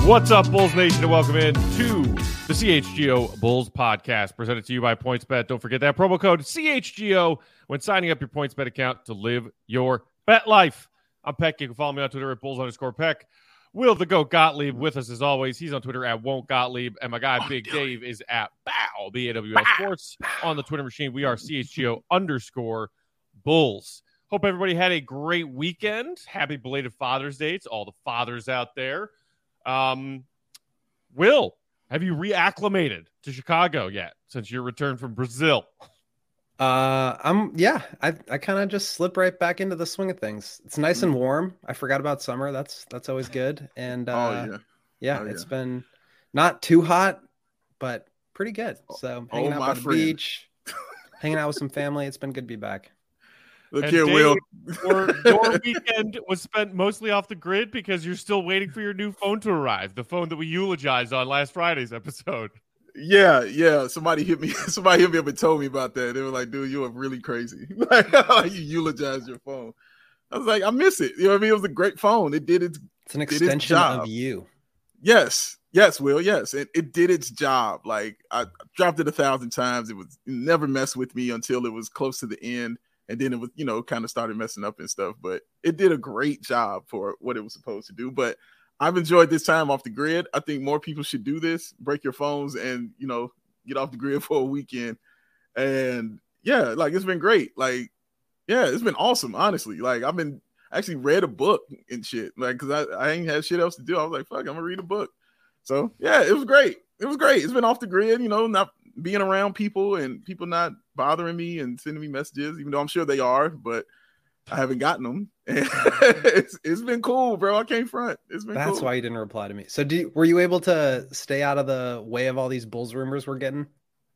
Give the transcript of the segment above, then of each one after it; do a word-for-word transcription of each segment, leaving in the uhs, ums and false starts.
What's up, Bulls Nation, and welcome in to the C H G O Bulls podcast, presented to you by PointsBet. Don't forget that promo code C H G O when signing up your PointsBet account to live your bet life. I'm Peck. You can follow me on Twitter at Bulls underscore Peck. Will the Goat Gottlieb with us as always. He's on Twitter at Won't Gottlieb, and my guy oh, Big dude. Dave is at Bow B A W L Sports on the Twitter machine. We are C H G O underscore Bulls. Hope everybody had a great weekend. Happy belated Father's Day to all the fathers out there. Um, Will, have you reacclimated to Chicago yet since your return from Brazil? Uh, I'm yeah. I I kind of just slip right back into the swing of things. It's nice and warm. I forgot about summer. That's that's always good. And uh, oh yeah, yeah, oh, it's yeah. been not too hot, but pretty good. So Oh, hanging out my by the friend. beach, hanging out with some family. It's been good to be back. Look And here, Dave, Will. Your, your weekend was spent mostly off the grid because you're still waiting for your new phone to arrive, the phone that we eulogized on last Friday's episode. Yeah, yeah. Somebody hit me. Somebody hit me up and told me about that. They were like, "Dude, you are really crazy. Like, you eulogize your phone." I was like, "I miss it." You know what I mean? It was a great phone. It did its. It's an did its extension job. of you. Yes, yes, Will. Yes, it, it did its job. Like I dropped it a thousand times. It was it never messed with me until it was close to the end. And then it was, you know, kind of started messing up and stuff, but it did a great job for what it was supposed to do. But I've enjoyed this time off the grid. I think more people should do this, break your phones and, you know, get off the grid for a weekend. And yeah, like it's been great. Like, yeah, it's been awesome, honestly. Like I've been actually read a book and shit, like, cause I, I ain't had shit else to do. I was like, fuck, I'm gonna read a book. So yeah, it was great. It was great. It's been off the grid, you know, not being around people and people not bothering me and sending me messages, even though I'm sure they are, but I haven't gotten them. And it's, it's been cool, bro. I can't front. It's been That's cool. why you didn't reply to me. So, do were you able to stay out of the way of all these Bulls rumors we're getting?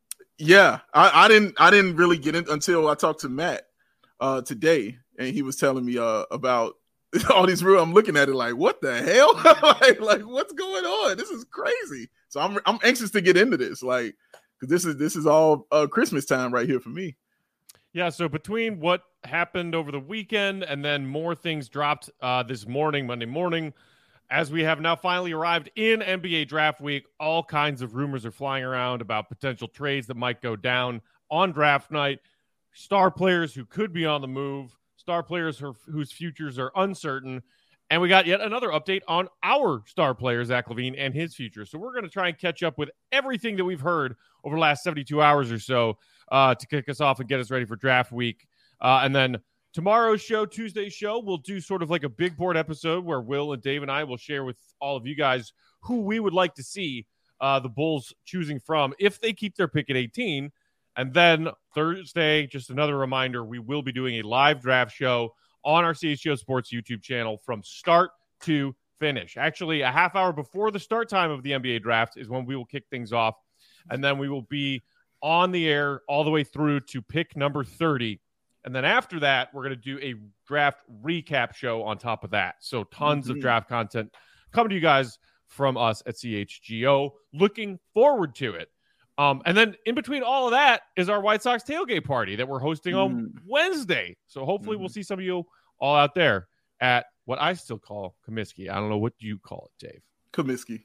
Yeah, I, I didn't. I didn't really get it until I talked to Matt uh, today, and he was telling me uh, about all these rumors. I'm looking at it like, what the hell? like, like, what's going on? This is crazy. So I'm I'm anxious to get into this, like, because this is this is all uh, Christmas time right here for me. Yeah, so between what happened over the weekend and then more things dropped uh, this morning, Monday morning, as we have now finally arrived in N B A draft week, all kinds of rumors are flying around about potential trades that might go down on draft night, star players who could be on the move, star players who, whose futures are uncertain, and we got yet another update on our star player, Zach LaVine, and his future. So we're going to try and catch up with everything that we've heard over the last seventy-two hours or so uh, to kick us off and get us ready for draft week. Uh, and then tomorrow's show, Tuesday's show, we'll do sort of like a big board episode where Will and Dave and I will share with all of you guys who we would like to see uh, the Bulls choosing from if they keep their pick at eighteen. And then Thursday, just another reminder, we will be doing a live draft show on our C H G O Sports YouTube channel from start to finish. Actually, a half hour before the start time of the N B A draft is when we will kick things off. And then we will be on the air all the way through to pick number thirty. And then after that, we're going to do a draft recap show on top of that. So tons mm-hmm. of draft content coming to you guys from us at C H G O. Looking forward to it. Um, and then in between all of that is our White Sox tailgate party that we're hosting mm. on Wednesday. So hopefully mm. we'll see some of you all out there at what I still call Comiskey. I don't know what you call it, Dave. Comiskey.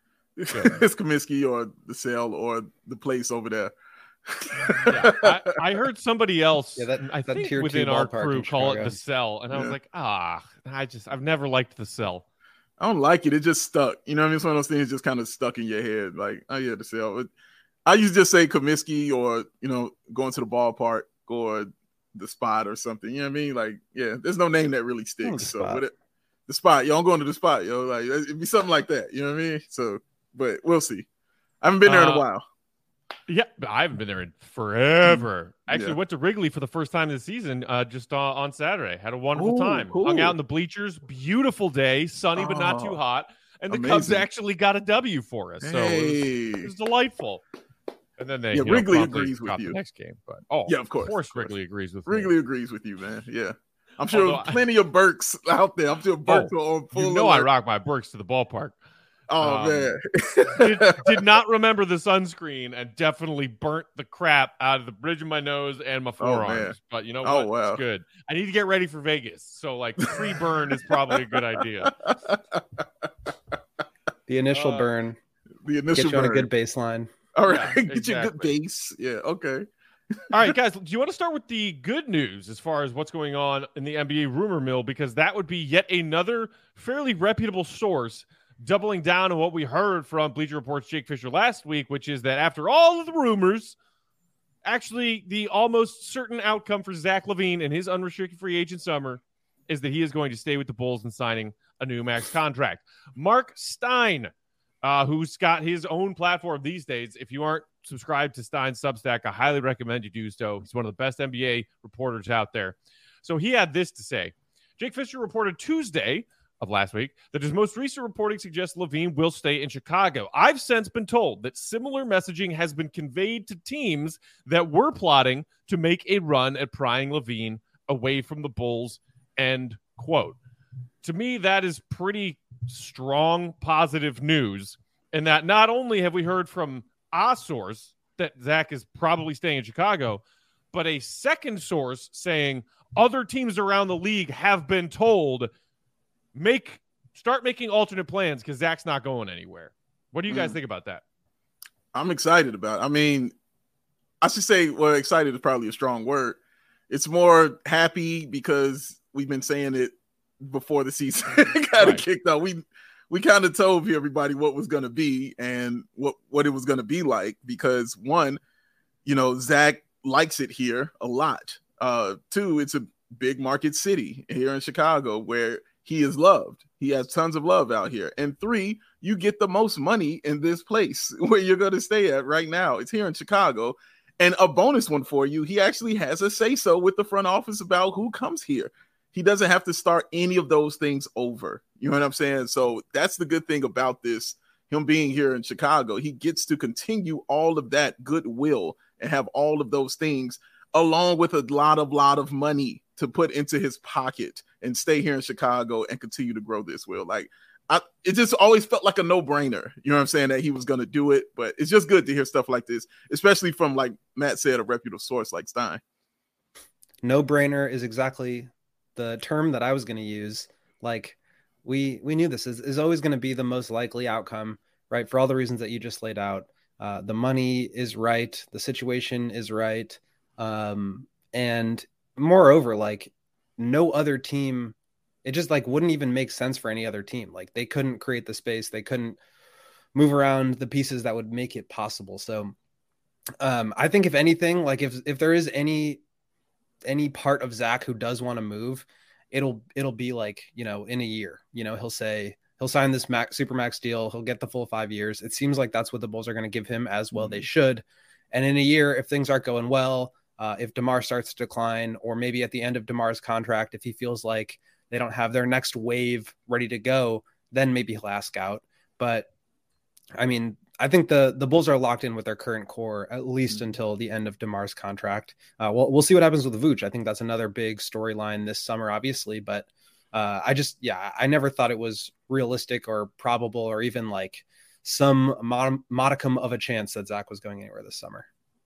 It's Comiskey or the cell or the place over there. yeah, I, I heard somebody else, yeah, that, I that think within our crew, call it the cell. And I yeah. was like, ah, I just, I've never liked the cell. I don't like it. It just stuck. You know what I mean? It's one of those things just kind of stuck in your head. Like, oh yeah, the cell. It, I used to just say Comiskey or, you know, going to the ballpark or the spot or something. You know what I mean? Like, yeah, there's no name that really sticks. The so spot. with it, the spot, yo, I'm going to the spot, yo. Like, it'd be something like that. You know what I mean? So, but we'll see. I haven't been there uh, in a while. Yeah, but I haven't been there in forever. Actually, yeah. went to Wrigley for the first time this season uh, just uh, on Saturday. Had a wonderful Ooh, time. cool. Hung out in the bleachers. Beautiful day. Sunny, but not too hot. And the amazing. Cubs actually got a W for us. So hey. it, was, it was delightful. And then they yeah, you Wrigley know, agrees with the you. next game. But oh, yeah, of course, of course, of course. Wrigley agrees with Wrigley me. agrees with you, man. Yeah. I'm sure Although plenty of Burks out there. I'm sure Burks oh, are on full You know alert. I rock my Burks to the ballpark. Oh, um, man. did, did not remember the sunscreen and definitely burnt the crap out of the bridge of my nose and my forearms. Oh, but you know what? Oh, wow. It's good. I need to get ready for Vegas. So, like, pre-burn is probably a good idea. The initial Uh, burn. The initial Get you on burn. a good baseline. All right, Yeah, get you a good exactly. base. Yeah, okay. All right, guys, do you want to start with the good news as far as what's going on in the N B A rumor mill? Because that would be yet another fairly reputable source doubling down on what we heard from Bleacher Report's Jake Fisher last week, which is that after all of the rumors, actually the almost certain outcome for Zach LaVine and his unrestricted free agent summer is that he is going to stay with the Bulls and signing a new max contract. Mark Stein, uh, who's got his own platform these days. If you aren't subscribed to Stein's Substack, I highly recommend you do so. He's one of the best N B A reporters out there. So he had this to say. Jake Fisher reported Tuesday of last week that his most recent reporting suggests LaVine will stay in Chicago. I've since been told that similar messaging has been conveyed to teams that were plotting to make a run at prying LaVine away from the Bulls, end quote. To me, that is pretty strong positive news, and that not only have we heard from a source that Zach is probably staying in Chicago, but a second source saying other teams around the league have been told make start making alternate plans because Zach's not going anywhere. What do you guys mm. think about that? I'm excited about it. I mean, I should say, well, excited is probably a strong word. It's more happy because we've been saying it before the season kind of right. kicked off. We we kind of told everybody what was going to be and what, what it was going to be like because, one, you know, Zach likes it here a lot. Uh, two, it's a big market city here in Chicago where he is loved. He has tons of love out here. And three, you get the most money in this place where you're going to stay at right now. It's here in Chicago. And a bonus one for you, he actually has a say-so with the front office about who comes here. He doesn't have to start any of those things over. You know what I'm saying? So that's the good thing about this, him being here in Chicago. He gets to continue all of that goodwill and have all of those things along with a lot of, lot of money to put into his pocket and stay here in Chicago and continue to grow this will. Like, I, it just always felt like a no-brainer. You know what I'm saying? That he was going to do it, but it's just good to hear stuff like this, especially from, like Matt said, a reputable source like Stein. No-brainer is exactly the term that I was going to use. Like, we we knew this is, is always going to be the most likely outcome, right? For all the reasons that you just laid out. Uh, the money is right. The situation is right. Um, and moreover, like, no other team, it just like wouldn't even make sense for any other team. Like, they couldn't create the space. They couldn't move around the pieces that would make it possible. So um, I think if anything, like if, if there is any, any part of Zach who does want to move, it'll, it'll be like, you know, in a year, you know, he'll say, he'll sign this max super max deal. He'll get the full five years. It seems like that's what the Bulls are going to give him as well. Mm-hmm. They should. And in a year, if things aren't going well, uh, if DeMar starts to decline, or maybe at the end of DeMar's contract, if he feels like they don't have their next wave ready to go, then maybe he'll ask out. But I mean, I think the, the Bulls are locked in with their current core, at least mm-hmm. until the end of DeMar's contract. Uh, we'll, we'll see what happens with Vooch. I think that's another big storyline this summer, obviously, but uh, I just, yeah, I never thought it was realistic or probable or even like some mod- modicum of a chance that Zach was going anywhere this summer.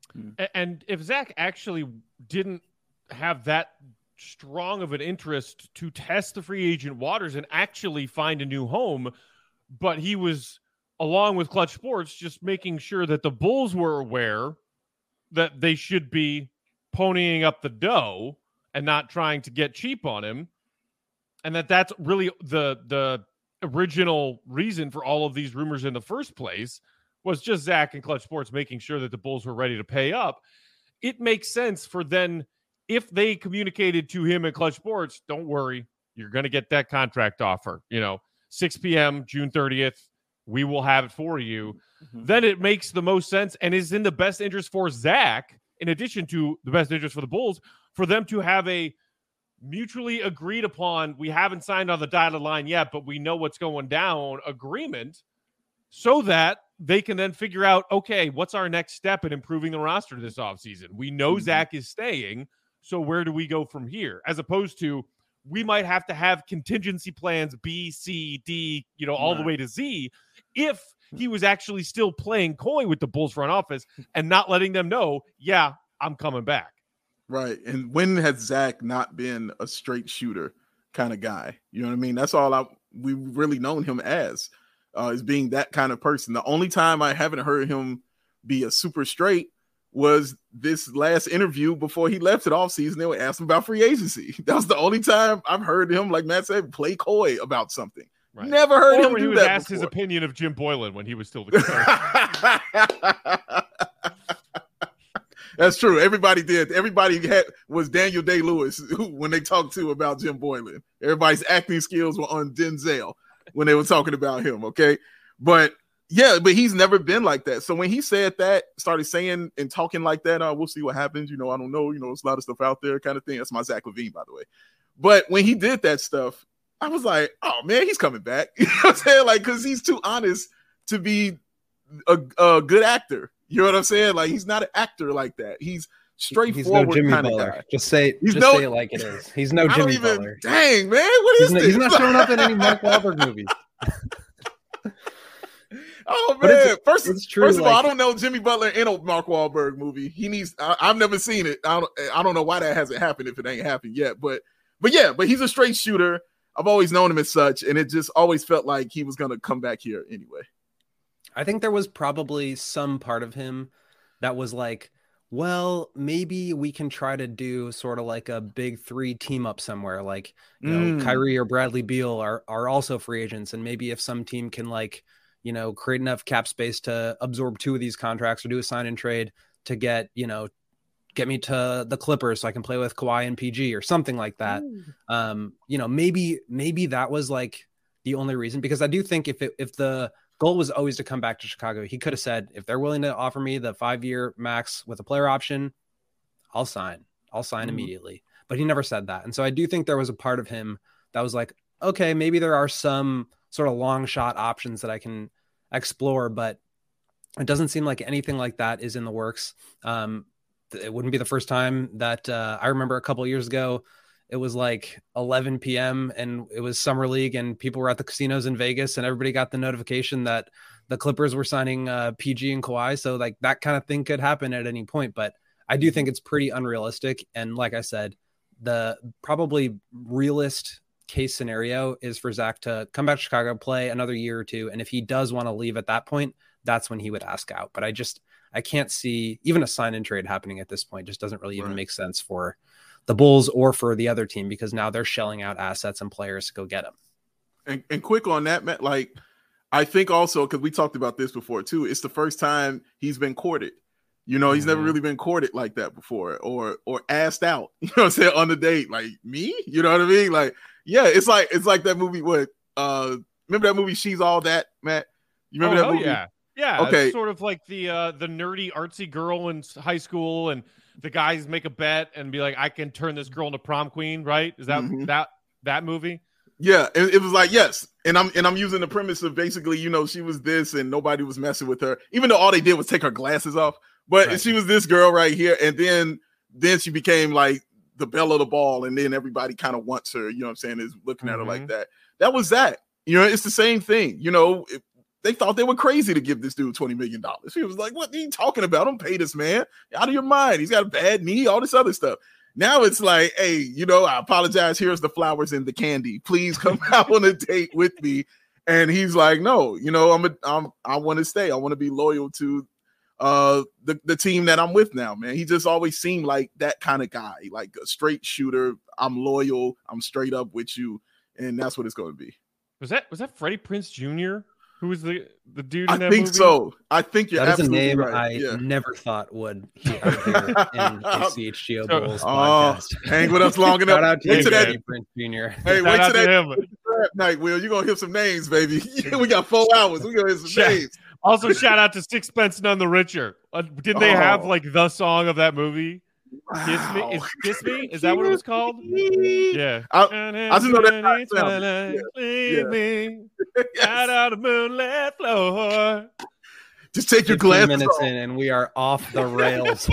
And if Zach actually didn't have that strong of an interest to test the free agent waters and actually find a new home, but he was, along with Clutch Sports, just making sure that the Bulls were aware that they should be ponying up the dough and not trying to get cheap on him, and that that's really the the original reason for all of these rumors in the first place, was just Zach and Clutch Sports making sure that the Bulls were ready to pay up. It makes sense for then, if they communicated to him and Clutch Sports, don't worry, you're going to get that contract offer, you know, six p.m. June thirtieth, we will have it for you. Mm-hmm. Then it makes the most sense and is in the best interest for Zach, in addition to the best interest for the Bulls, for them to have a mutually agreed upon, we haven't signed on the dotted line yet, but we know what's going down, agreement, so that they can then figure out, okay, what's our next step in improving the roster this offseason? We know mm-hmm. Zach is staying, so where do we go from here? As opposed to, we might have to have contingency plans B, C, D, you know, all right. the way to Z, if he was actually still playing coy with the Bulls front office and not letting them know, yeah, I'm coming back. Right. And when has Zach not been a straight shooter kind of guy? You know what I mean? That's all I we've really known him as. uh, as being that kind of person. The only time I haven't heard him be a super straight was this last interview before he left it off season. They were asking about free agency. That was the only time I've heard him, like Matt said, play coy about something. Right. Never heard or him when do he was that asked before. his opinion of Jim Boylan when he was still the coach. That's true. Everybody did. Everybody had was Daniel Day-Lewis when they talked to about Jim Boylan. Everybody's acting skills were on Denzel when they were talking about him. Okay, but yeah, but he's never been like that. So when he said that, started saying and talking like that, uh, we'll see what happens. You know, I don't know. You know, there's a lot of stuff out there, kind of thing. That's my Zach Levine, by the way. But when he did that stuff, I was like, oh man, he's coming back. You know what I'm saying? Like, because he's too honest to be a, a good actor. You know what I'm saying? Like, he's not an actor like that. He's straightforward he's no kind Butler. of guy. Just say, he's just no, say it like it is. He's no Jimmy even, Butler. Dang, man, what is he's this? Not, he's not showing up in any Mark Wahlberg movies. Oh man! It's, first, it's true, first of like, all, I don't know Jimmy Butler in a Mark Wahlberg movie. He needs. I, I've never seen it. I don't. I don't know why that hasn't happened if it ain't happened yet. But, but yeah, but he's a straight shooter. I've always known him as such, and it just always felt like he was gonna come back here anyway. I think there was probably some part of him that was like, well, maybe we can try to do sort of like a big three team up somewhere. Like, you Mm. know, Kyrie or Bradley Beal are are also free agents, and maybe if some team can like, you know, create enough cap space to absorb two of these contracts or do a sign and trade to get, you know, get me to the Clippers so I can play with Kawhi and P G or something like that. Um, you know, maybe, maybe that was like the only reason, because I do think if it, if the goal was always to come back to Chicago, he could have said, if they're willing to offer me the five year max with a player option, I'll sign, I'll sign mm-hmm. immediately. But he never said that. And so I do think there was a part of him that was like, okay, maybe there are some sort of long shot options that I can explore, but it doesn't seem like anything like that is in the works. Um, it wouldn't be the first time that uh, I remember a couple of years ago, it was like eleven p.m. and it was summer league and people were at the casinos in Vegas and everybody got the notification that the Clippers were signing uh, P G and Kawhi. So like that kind of thing could happen at any point, but I do think it's pretty unrealistic. And like I said, the probably realist case scenario is for Zach to come back to Chicago, play another year or two. And if he does want to leave at that point, that's when he would ask out. But I just, I can't see even a sign and trade happening at this point. Just doesn't really even right. make sense for the Bulls or for the other team, because now they're shelling out assets and players to go get them. And, and quick on that, Matt, like, I think also, because we talked about this before too, it's the first time he's been courted. You know, he's mm-hmm. never really been courted like that before, or or asked out, you know what I'm saying, on the date. Like, me? You know what I mean? Like, yeah, it's like it's like that movie, what, uh, remember that movie, She's All That, Matt? You remember oh, that movie? Yeah. Yeah, okay. It's sort of like the uh, the nerdy, artsy girl in high school, and the guys make a bet and be like, I can turn this girl into prom queen, right? Is that mm-hmm. that that movie? Yeah, it, it was like, yes. And I'm and I'm using the premise of basically, you know, she was this and nobody was messing with her, even though all they did was take her glasses off. But right. she was this girl right here, and then then she became like the belle of the ball, and then everybody kind of wants her, you know what I'm saying, is looking mm-hmm. at her like that. That was that. You know, it's the same thing. You know, it, they thought they were crazy to give this dude twenty million dollars. He was like, what are you talking about? Don't pay this man. Out of your mind. He's got a bad knee, all this other stuff. Now it's like, hey, you know, I apologize. Here's the flowers and the candy. Please come out on a date with me. And he's like, no, you know, I'm a, I'm I want to stay. I want to be loyal to uh the, the team that I'm with now, man. He just always seemed like that kind of guy, like a straight shooter. I'm loyal. I'm straight up with you. And that's what it's going to be. Was that was that Freddie Prinze Junior? Who was the, the dude in I that think movie? so. I think you're that is a absolutely name right. I yeah. never thought would hear in a C H G O Bulls oh, podcast. Hang with us long enough. Shout out to wait you, to that Prince Junior Hey, Shout wait out to that him. night, Will. You're gonna hear some names, baby. we got four hours. We're gonna hear some Shout, names. Also, shout out to Sixpence None the Richer. Uh, didn't they oh. have like the song of that movie? Wow. Kiss me? Is Kiss Me? Is that what it was called? Yeah. I, I just know that. Twilight, leave yeah. me yes. out on the moonlit floor. Just take your glasses minutes off. in, and we are off the rails.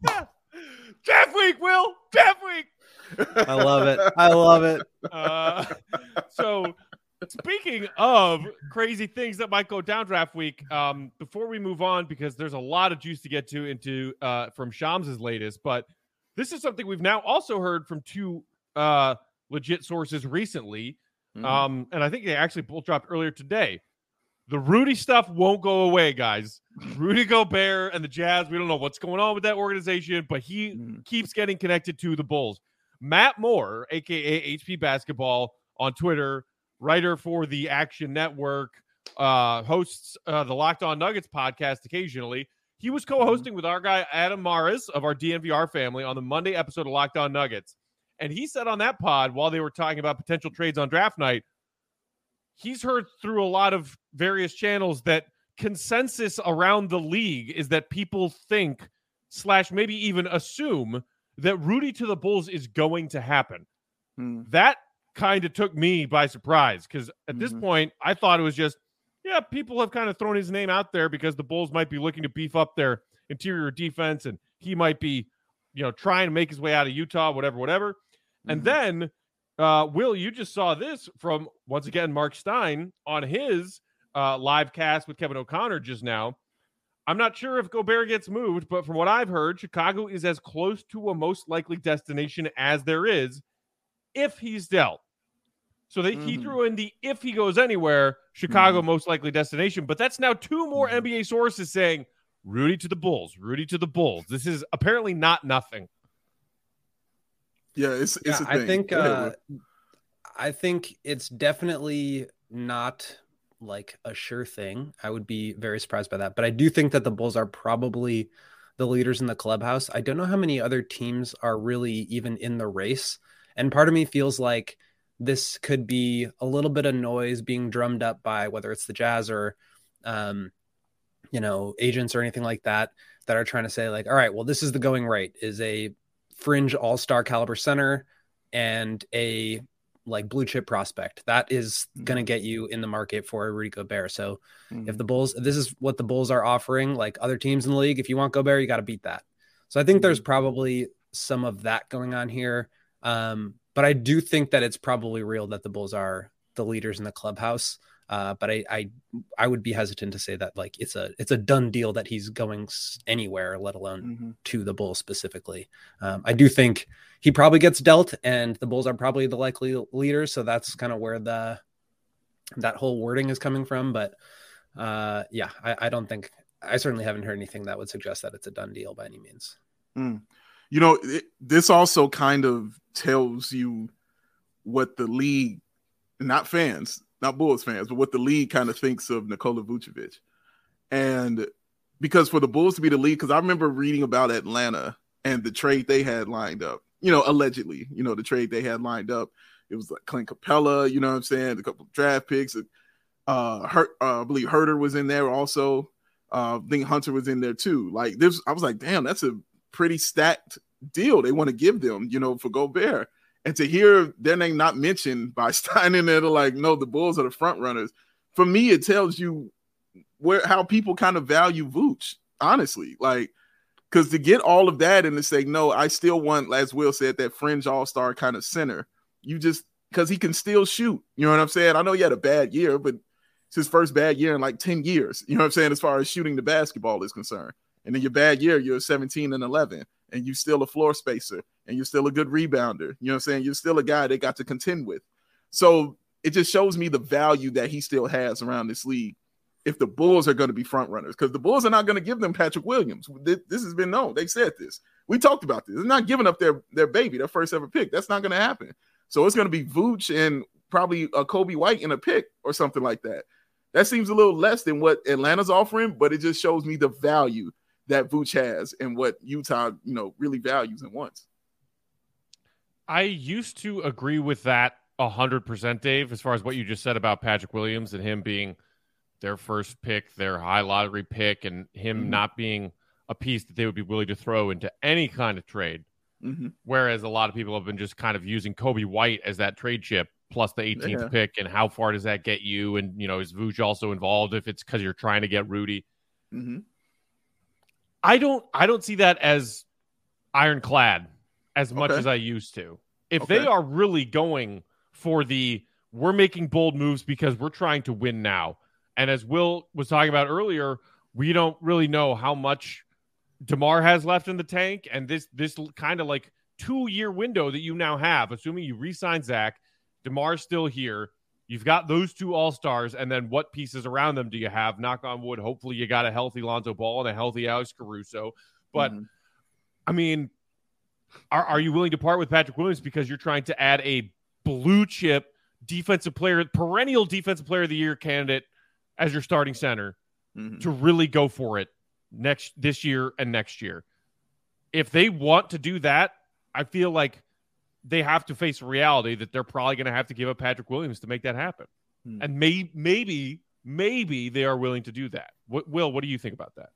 Jeff Week, Will. Jeff Week. I love it. I love it. Uh, so, speaking of crazy things that might go down draft week, um, before we move on, because there's a lot of juice to get to into uh, from Shams' latest, but this is something we've now also heard from two uh, legit sources recently, mm-hmm. um, and I think they actually both dropped earlier today. the Rudy stuff won't go away, guys. Rudy Gobert and the Jazz, we don't know what's going on with that organization, but he mm. keeps getting connected to the Bulls. Matt Moore, a k a. H P Basketball on Twitter, writer for the Action Network, uh, hosts uh, the Locked On Nuggets podcast occasionally. He was co-hosting mm. with our guy Adam Maris of our D N V R family on the Monday episode of Locked On Nuggets. And he said on that pod, while they were talking about potential trades on draft night, he's heard through a lot of various channels that consensus around the league is that people think slash maybe even assume that Rudy to the Bulls is going to happen. Hmm. That kind of took me by surprise because at mm-hmm. this point, I thought it was just, yeah, people have kind of thrown his name out there because the Bulls might be looking to beef up their interior defense and he might be, you know, trying to make his way out of Utah, whatever, whatever. Mm-hmm. And then Uh, Will, you just saw this from, once again, Mark Stein on his uh, live cast with Kevin O'Connor just now. I'm not sure if Gobert gets moved, but from what I've heard, Chicago is as close to a most likely destination as there is if he's dealt. So they, mm-hmm. he threw in the if he goes anywhere, Chicago mm-hmm. most likely destination. But that's now two more mm-hmm. N B A sources saying, Rudy to the Bulls, Rudy to the Bulls. This is apparently not nothing. Yeah, it's it's yeah, a thing. I think uh, I think it's definitely not like a sure thing. I would be very surprised by that. But I do think that the Bulls are probably the leaders in the clubhouse. I don't know how many other teams are really even in the race. And part of me feels like this could be a little bit of noise being drummed up by whether it's the Jazz or, um, you know, agents or anything like that, that are trying to say like, all right, well, this is the going rate is a fringe all-star caliber center and a like blue chip prospect that is mm-hmm. going to get you in the market for Rudy Gobert. So mm-hmm. if the Bulls, this is what the Bulls are offering, like other teams in the league, if you want Gobert, you got to beat that. So I think mm-hmm. there's probably some of that going on here. Um, but I do think that it's probably real that the Bulls are the leaders in the clubhouse. Uh, but I, I, I would be hesitant to say that like it's a it's a done deal that he's going anywhere, let alone mm-hmm. to the Bulls specifically. Um, I do think he probably gets dealt, and the Bulls are probably the likely leaders. So that's kind of where the that whole wording is coming from. But uh, yeah, I, I don't think I certainly haven't heard anything that would suggest that it's a done deal by any means. Mm. You know, it, this also kind of tells you what the league, not fans. Not Bulls fans, but what the league kind of thinks of Nikola Vucevic. And because for the Bulls to be the league, because I remember reading about Atlanta and the trade they had lined up, you know, allegedly, you know, the trade they had lined up. It was like Clint Capella, you know what I'm saying? A couple of draft picks. Uh, Hurt, uh, I believe Herter was in there also. Uh, I think Hunter was in there too. Like this, I was like, damn, that's a pretty stacked deal they want to give them, you know, for Gobert. And to hear their name not mentioned by Stein in there, to like, no, the Bulls are the front runners. For me, it tells you where how people kind of value Vooch, honestly. Like, because to get all of that and to say, no, I still want, as Will said, that fringe all-star kind of center. You just, because he can still shoot. You know what I'm saying? I know he had a bad year, but it's his first bad year in like ten years. You know what I'm saying? As far as shooting the basketball is concerned. And in your bad year, you're seventeen and eleven, and you're still a floor spacer, and you're still a good rebounder. You know what I'm saying? You're still a guy they got to contend with. So it just shows me the value that he still has around this league if the Bulls are going to be front runners, because the Bulls are not going to give them Patrick Williams. This has been known. They said this. We talked about this. They're not giving up their, their baby, their first ever pick. That's not going to happen. So it's going to be Vooch and probably a Kobe White in a pick or something like that. That seems a little less than what Atlanta's offering, but it just shows me the value that Vooch has and what Utah, you know, really values and wants. I used to agree with that one hundred percent, Dave, as far as what you just said about Patrick Williams and him being their first pick, their high lottery pick, and him mm-hmm. not being a piece that they would be willing to throw into any kind of trade. Mm-hmm. Whereas a lot of people have been just kind of using Kobe White as that trade chip plus the eighteenth yeah. pick, and how far does that get you? And, you know, is Vooch also involved if it's because you're trying to get Rudy? Mm-hmm. I don't I don't see that as ironclad as much okay. as I used to. If okay. they are really going for the we're making bold moves because we're trying to win now. And as Will was talking about earlier, we don't really know how much DeMar has left in the tank. And this this kind of like two-year window that you now have, assuming you re-sign Zach, DeMar's still here. You've got those two all-stars, and then what pieces around them do you have? Knock on wood. Hopefully you got a healthy Lonzo Ball and a healthy Alex Caruso. But, mm-hmm. I mean, are, are you willing to part with Patrick Williams because you're trying to add a blue-chip defensive player, perennial defensive player of the year candidate as your starting center mm-hmm. to really go for it next this year and next year? If they want to do that, I feel like they have to face reality that they're probably going to have to give up Patrick Williams to make that happen. Hmm. And may, maybe, maybe they are willing to do that. What, Will, what do you think about that?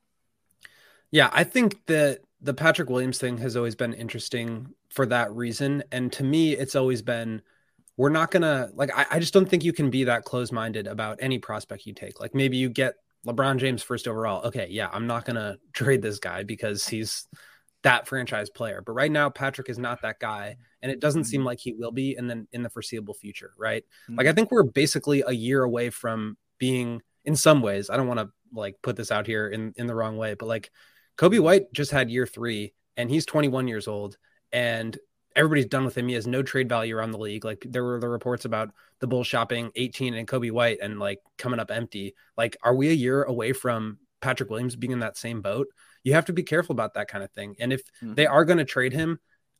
Yeah, I think that the Patrick Williams thing has always been interesting for that reason. And to me, it's always been, we're not going to, like, I, I just don't think you can be that close-minded about any prospect you take. Like, maybe you get LeBron James first overall. Okay, yeah, I'm not going to trade this guy because he's that franchise player. But right now, Patrick is not that guy. And it doesn't seem like he will be in the, in the foreseeable future, right? Mm-hmm. Like, I think we're basically a year away from being, in some ways, I don't want to like put this out here in, in the wrong way, but like Kobe White just had year three and he's twenty-one years old and everybody's done with him. He has no trade value around the league. Like, there were the reports about the Bulls shopping eighteen and Kobe White and like coming up empty. Like, are we a year away from Patrick Williams being in that same boat? You have to be careful about that kind of thing. And if mm-hmm. they are going to trade him,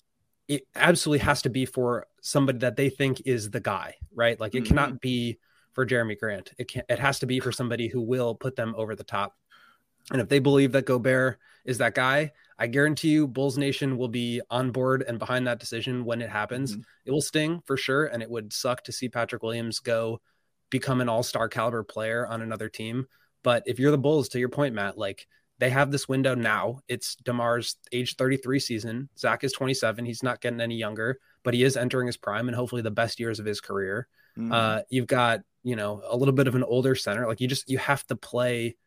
it absolutely has to be for somebody that they think is the guy, right? Like, it mm-hmm. cannot be for Jeremy Grant. It can it has to be for somebody who will put them over the top. And if they believe that Gobert is that guy, I guarantee you Bulls Nation will be on board and behind that decision when it happens. Mm-hmm. It will sting for sure. And it would suck to see Patrick Williams go become an all-star caliber player on another team. But if you're the Bulls, to your point, Matt, like, they have this window now. It's DeMar's age thirty-three season. Zach is twenty-seven. He's not getting any younger, but he is entering his prime and hopefully the best years of his career. Mm-hmm. Uh, you've got, you know, a little bit of an older center. Like, you just, you have to play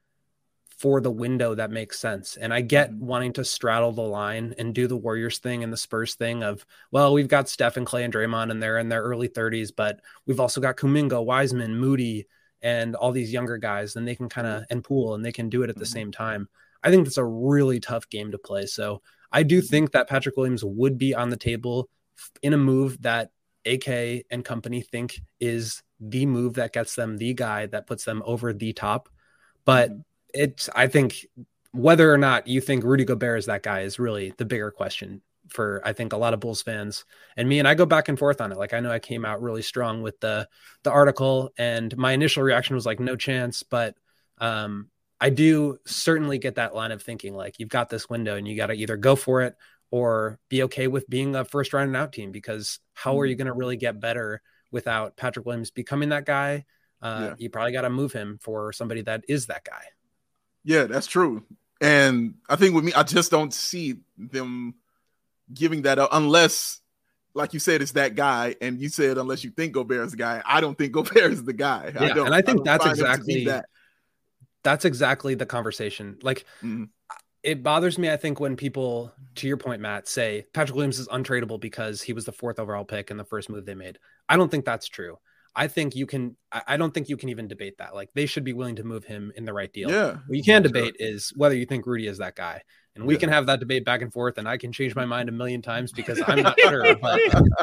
for the window that makes sense. And I get mm-hmm. wanting to straddle the line and do the Warriors thing and the Spurs thing of, well, we've got Steph and Clay and Draymond and they're in their early thirties, but we've also got Kuminga, Wiseman, Moody, and all these younger guys, and they can kind of, and Poole, and they can do it at the mm-hmm. same time. I think that's a really tough game to play. So I do think that Patrick Williams would be on the table in a move that A K and company think is the move that gets them the guy that puts them over the top. But mm-hmm. it's, I think whether or not you think Rudy Gobert is that guy is really the bigger question for, I think, a lot of Bulls fans and me. And I go back and forth on it. Like, I know I came out really strong with the, the article and my initial reaction was like, no chance. But um, I do certainly get that line of thinking, like, you've got this window and you got to either go for it or be okay with being a first round and out team, because how mm-hmm. are you going to really get better without Patrick Williams becoming that guy? Uh, yeah. You probably got to move him for somebody that is that guy. Yeah, that's true. And I think with me, I just don't see them giving that up unless, like you said, it's that guy. And you said, unless you think Gobert is the guy. I don't think Gobert is the guy. Yeah, I don't, and I think I that's exactly that. That's exactly the conversation. Like, mm-hmm. it bothers me, I think, when people, to your point, Matt, say Patrick Williams is untradeable because he was the fourth overall pick in the first move they made. I don't think that's true. I think you can, I don't think you can even debate that. Like, they should be willing to move him in the right deal. Yeah. What you can debate sure. is whether you think Rudy is that guy. And we yeah. can have that debate back and forth, and I can change my mind a million times because I'm not sure. But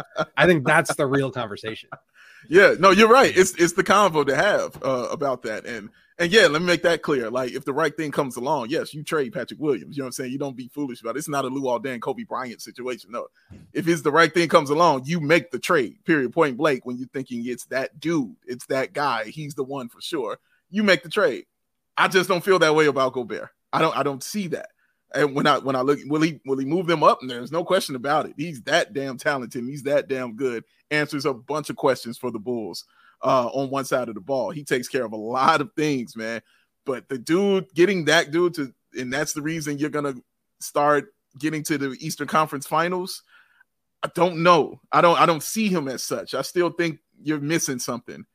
I think that's the real conversation. Yeah, no, you're right. It's it's the convo to have uh, about that. And and yeah, let me make that clear. Like, if the right thing comes along, yes, you trade Patrick Williams. You know what I'm saying? You don't be foolish about it. It's not a Luol Deng, Kobe Bryant situation. No. If it's the right thing comes along, you make the trade, period, point blank. When you're thinking it's that dude, it's that guy, he's the one for sure, you make the trade. I just don't feel that way about Gobert. I don't I don't see that. And when I when I look, will he will he move them up? And there's no question about it. He's that damn talented. He's that damn good. Answers a bunch of questions for the Bulls uh, on one side of the ball. He takes care of a lot of things, man. But the dude, getting that dude to, and that's the reason you're gonna start getting to the Eastern Conference Finals. I don't know. I don't. I don't see him as such. I still think you're missing something,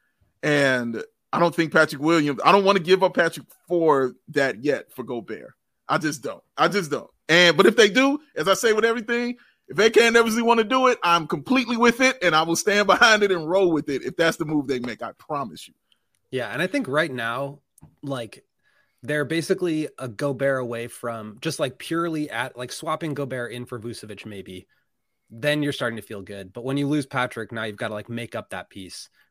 and I don't think Patrick Williams. I don't want to give up Patrick for that yet for Gobert. I just don't. I just don't. And but if they do, as I say with everything, if they can't ever want to do it, I'm completely with it, and I will stand behind it and roll with it if that's the move they make. I promise you. Yeah, and I think right now, like, they're basically a Gobert away from just like purely at like swapping Gobert in for Vucevic, maybe. Then you're starting to feel good. But when you lose Patrick, now you've got to like make up that piece,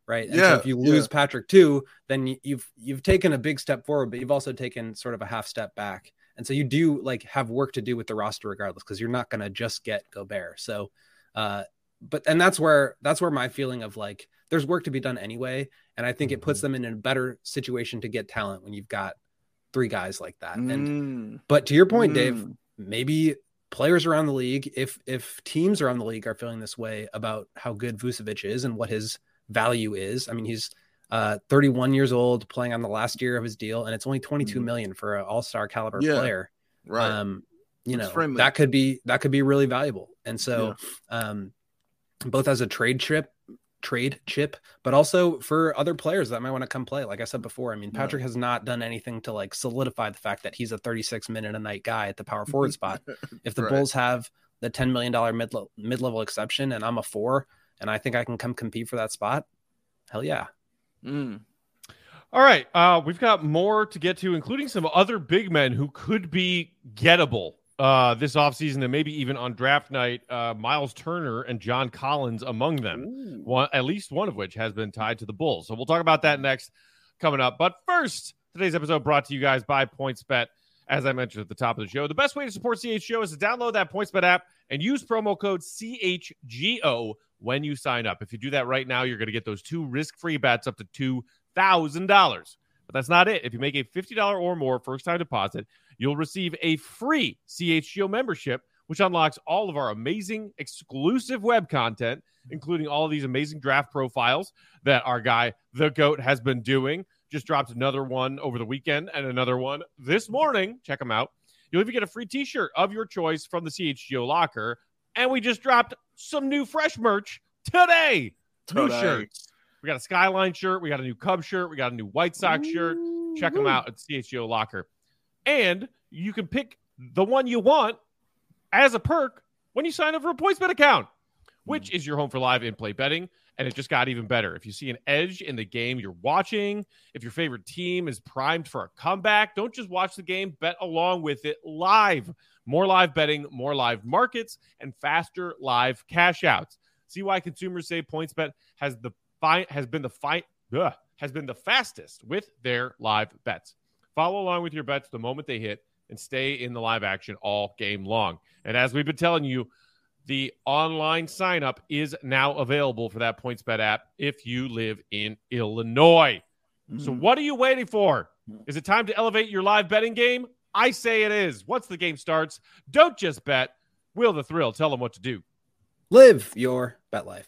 right? And yeah, so if you lose yeah. Patrick too, then you, you've you've taken a big step forward, but you've also taken sort of a half step back. And so you do like have work to do with the roster regardless, because you're not going to just get Gobert. So, uh, but and that's where that's where my feeling of like there's work to be done anyway, and I think mm-hmm. it puts them in a better situation to get talent when you've got three guys like that. Mm. And but to your point, mm. Dave, maybe players around the league, if if teams around the league are feeling this way about how good Vucevic is and what his value is. I mean, he's uh, thirty-one years old, playing on the last year of his deal, and it's only twenty-two mm. million for an all-star caliber yeah, player. Right. Um, you it's know, friendly. that could be that could be really valuable. And so, yeah. um, both as a trade chip, trade chip, but also for other players that might want to come play. Like I said before, I mean, Patrick yeah. has not done anything to like solidify the fact that he's a thirty-six minute a night guy at the power forward spot. If the right. Bulls have the ten million dollars mid mid level exception, and I'm a four, and I think I can come compete for that spot, hell yeah. Mm. All right. Uh, we've got more to get to, including some other big men who could be gettable uh, this offseason and maybe even on draft night. Uh, Miles Turner and John Collins among them, one, at least one of which has been tied to the Bulls. So we'll talk about that next coming up. But first, today's episode brought to you guys by PointsBet. As I mentioned at the top of the show, the best way to support C H G O is to download that PointsBet app and use promo code C H G O when you sign up. If you do that right now, you're going to get those two risk-free bets up to two thousand dollars. But that's not it. If you make a fifty dollars or more first-time deposit, you'll receive a free C H G O membership, which unlocks all of our amazing exclusive web content, including all of these amazing draft profiles that our guy, The GOAT, has been doing. Just dropped another one over the weekend and another one this morning. Check them out. You'll even get a free t-shirt of your choice from the C H G O locker. And we just dropped some new fresh merch today. today. New shirts. We got a Skyline shirt. We got a new Cubs shirt. We got a new White Sox Ooh. shirt. Check them out at C H G O locker. And you can pick the one you want as a perk when you sign up for a PointsBet account, which is your home for live in-play betting. And it just got even better. If you see an edge in the game you're watching, if your favorite team is primed for a comeback, don't just watch the game, bet along with it live. More live betting, more live markets, and faster live cash outs. See why consumers say PointsBet has the fi- has been the fi- ugh, has been the fastest with their live bets. Follow along with your bets the moment they hit and stay in the live action all game long. And as we've been telling you, the online sign-up is now available for that PointsBet app if you live in Illinois. Mm. So what are you waiting for? Is it time to elevate your live betting game? I say it is. Once the game starts, don't just bet. Will the Thrill tell them what to do? Live your bet life.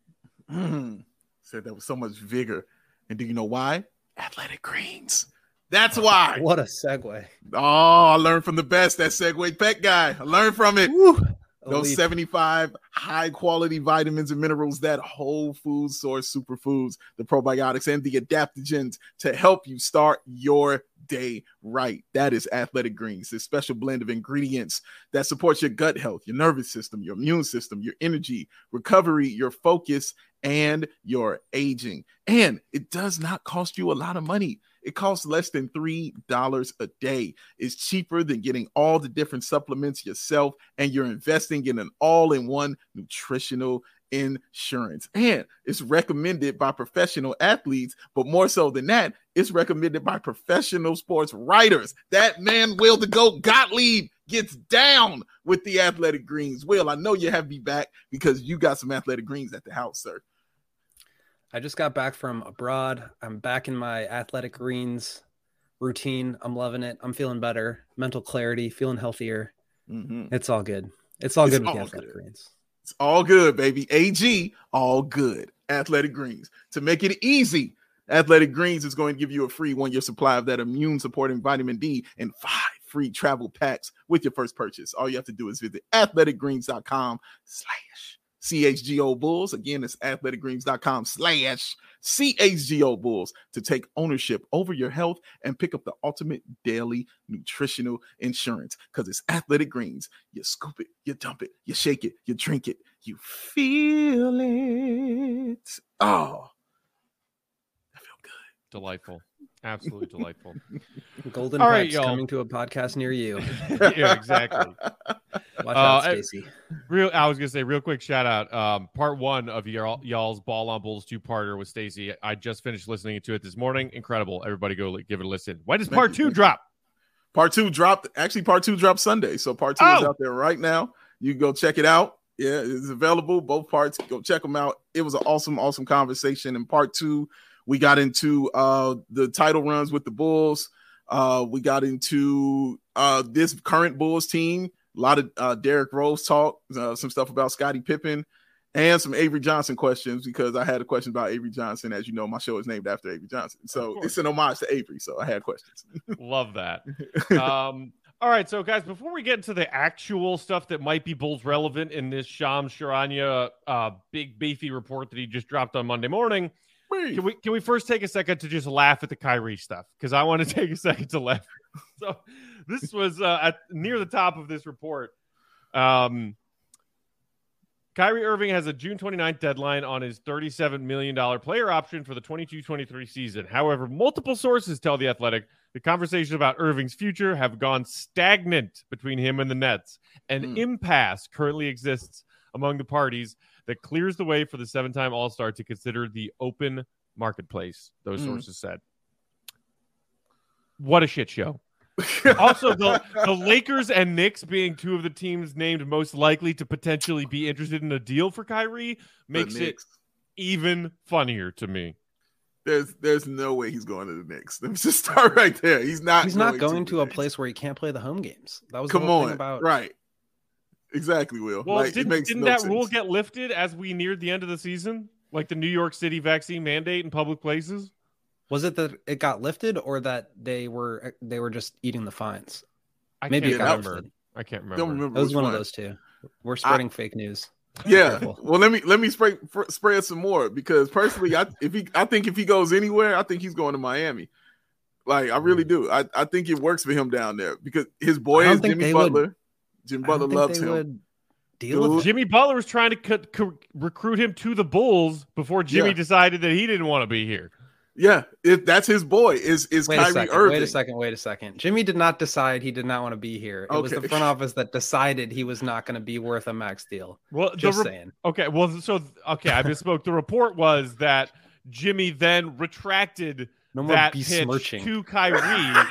Mm. Said that with so much vigor. And do you know why? Athletic Greens. That's why. What a segue. Oh, I learned from the best. That segue pet guy. I learned from it. Woo. Those Elite. seventy-five high-quality vitamins and minerals, that whole food source superfoods, the probiotics, and the adaptogens to help you start your day right. That is Athletic Greens, this special blend of ingredients that supports your gut health, your nervous system, your immune system, your energy, recovery, your focus, and your aging. And it does not cost you a lot of money. It costs less than three dollars a day. It's cheaper than getting all the different supplements yourself, and you're investing in an all-in-one nutritional insurance. And it's recommended by professional athletes, but more so than that, it's recommended by professional sports writers. That man, Will the GOAT Gottlieb, gets down with the Athletic Greens. Will, I know you have me back because you got some Athletic Greens at the house, sir. I just got back from abroad. I'm back in my Athletic Greens routine. I'm loving it. I'm feeling better. Mental clarity, feeling healthier. Mm-hmm. It's all good. It's all it's good with all the Athletic good. Greens. It's all good, baby. A G, all good. Athletic Greens. To make it easy, Athletic Greens is going to give you a free one-year supply of that immune-supporting vitamin D and five free travel packs with your first purchase. All you have to do is visit athleticgreens.com slash C H G O Bulls. Again, it's athleticgreens.com slash C H G O Bulls to take ownership over your health and pick up the ultimate daily nutritional insurance, because it's Athletic Greens. You scoop it, you dump it, you shake it, you drink it, you feel it. Oh, I feel good. Delightful. Absolutely delightful. Golden All right, Pipes coming to a podcast near you. Yeah, exactly. Watch Uh, out, I- Stacy. Real, I was gonna say real quick shout out. Um, part one of y'all, y'all's Ball on Bulls two parter with Stacy. I just finished listening to it this morning. Incredible. Everybody go li- give it a listen. When does Thank part you, two thank you. drop? Part two dropped. Actually, part two dropped Sunday. So part two is Oh! out there right now. You can go check it out. Yeah, it's available. Both parts. Go check them out. It was an awesome, awesome conversation. In part two, we got into uh, the title runs with the Bulls. Uh, we got into uh, this current Bulls team. A lot of uh, Derrick Rose talk. Uh, some stuff about Scottie Pippen. And some Avery Johnson questions, because I had a question about Avery Johnson. As you know, my show is named after Avery Johnson. So it's an homage to Avery. So I had questions. Love that. Um, all right, so guys, before we get into the actual stuff that might be Bulls relevant in this Shams Charania uh, big beefy report that he just dropped on Monday morning, can we can we first take a second to just laugh at the Kyrie stuff? Because I want to take a second to laugh. So this was uh, at near the top of this report. Um, Kyrie Irving has a June twenty-ninth deadline on his thirty-seven million dollars player option for the twenty-two twenty-three season. However, multiple sources tell The Athletic the conversations about Irving's future have gone stagnant between him and the Nets. An Mm. impasse currently exists among the parties that clears the way for the seven-time All-Star to consider the open marketplace, those Mm. sources said. What a shit show. Also, the, the Lakers and Knicks being two of the teams named most likely to potentially be interested in a deal for Kyrie makes it Knicks. even funnier to me. There's there's no way he's going to the Knicks. Let me just start right there. He's not. He's not going to the a Knicks. place where he can't play the home games. That was Come the whole on, thing about right? Exactly, Will. Well, like, it didn't, makes didn't no that sense. rule get lifted as we neared the end of the season? Like the New York City vaccine mandate in public places? Was it that it got lifted, or that they were they were just eating the fines? I Maybe can't it got remember. lifted. I can't remember. Don't remember. It was which one one of those two. We're spreading fake news. Yeah. Careful. Well, let me let me spray, fr- spread some more, because personally, I if he I think if he goes anywhere, I think he's going to Miami. Like I really do. I, I think it works for him down there, because his boy I don't is think Jimmy they Butler. would- Jimmy I Butler don't think loves they him. would deal with Dude. it. Jimmy Butler was trying to co- co- recruit him to the Bulls before Jimmy Yeah. decided that he didn't want to be here. Yeah, if that's his boy, is is Wait a Kyrie second. Irving. Wait a second. Wait a second. Jimmy did not decide he did not want to be here. It was Okay. the front office that decided he was not going to be worth a max deal. Well, Just the re- saying. okay. Well, so okay, I misspoke. The report was that Jimmy then retracted No more that pitch besmirching. to Kyrie,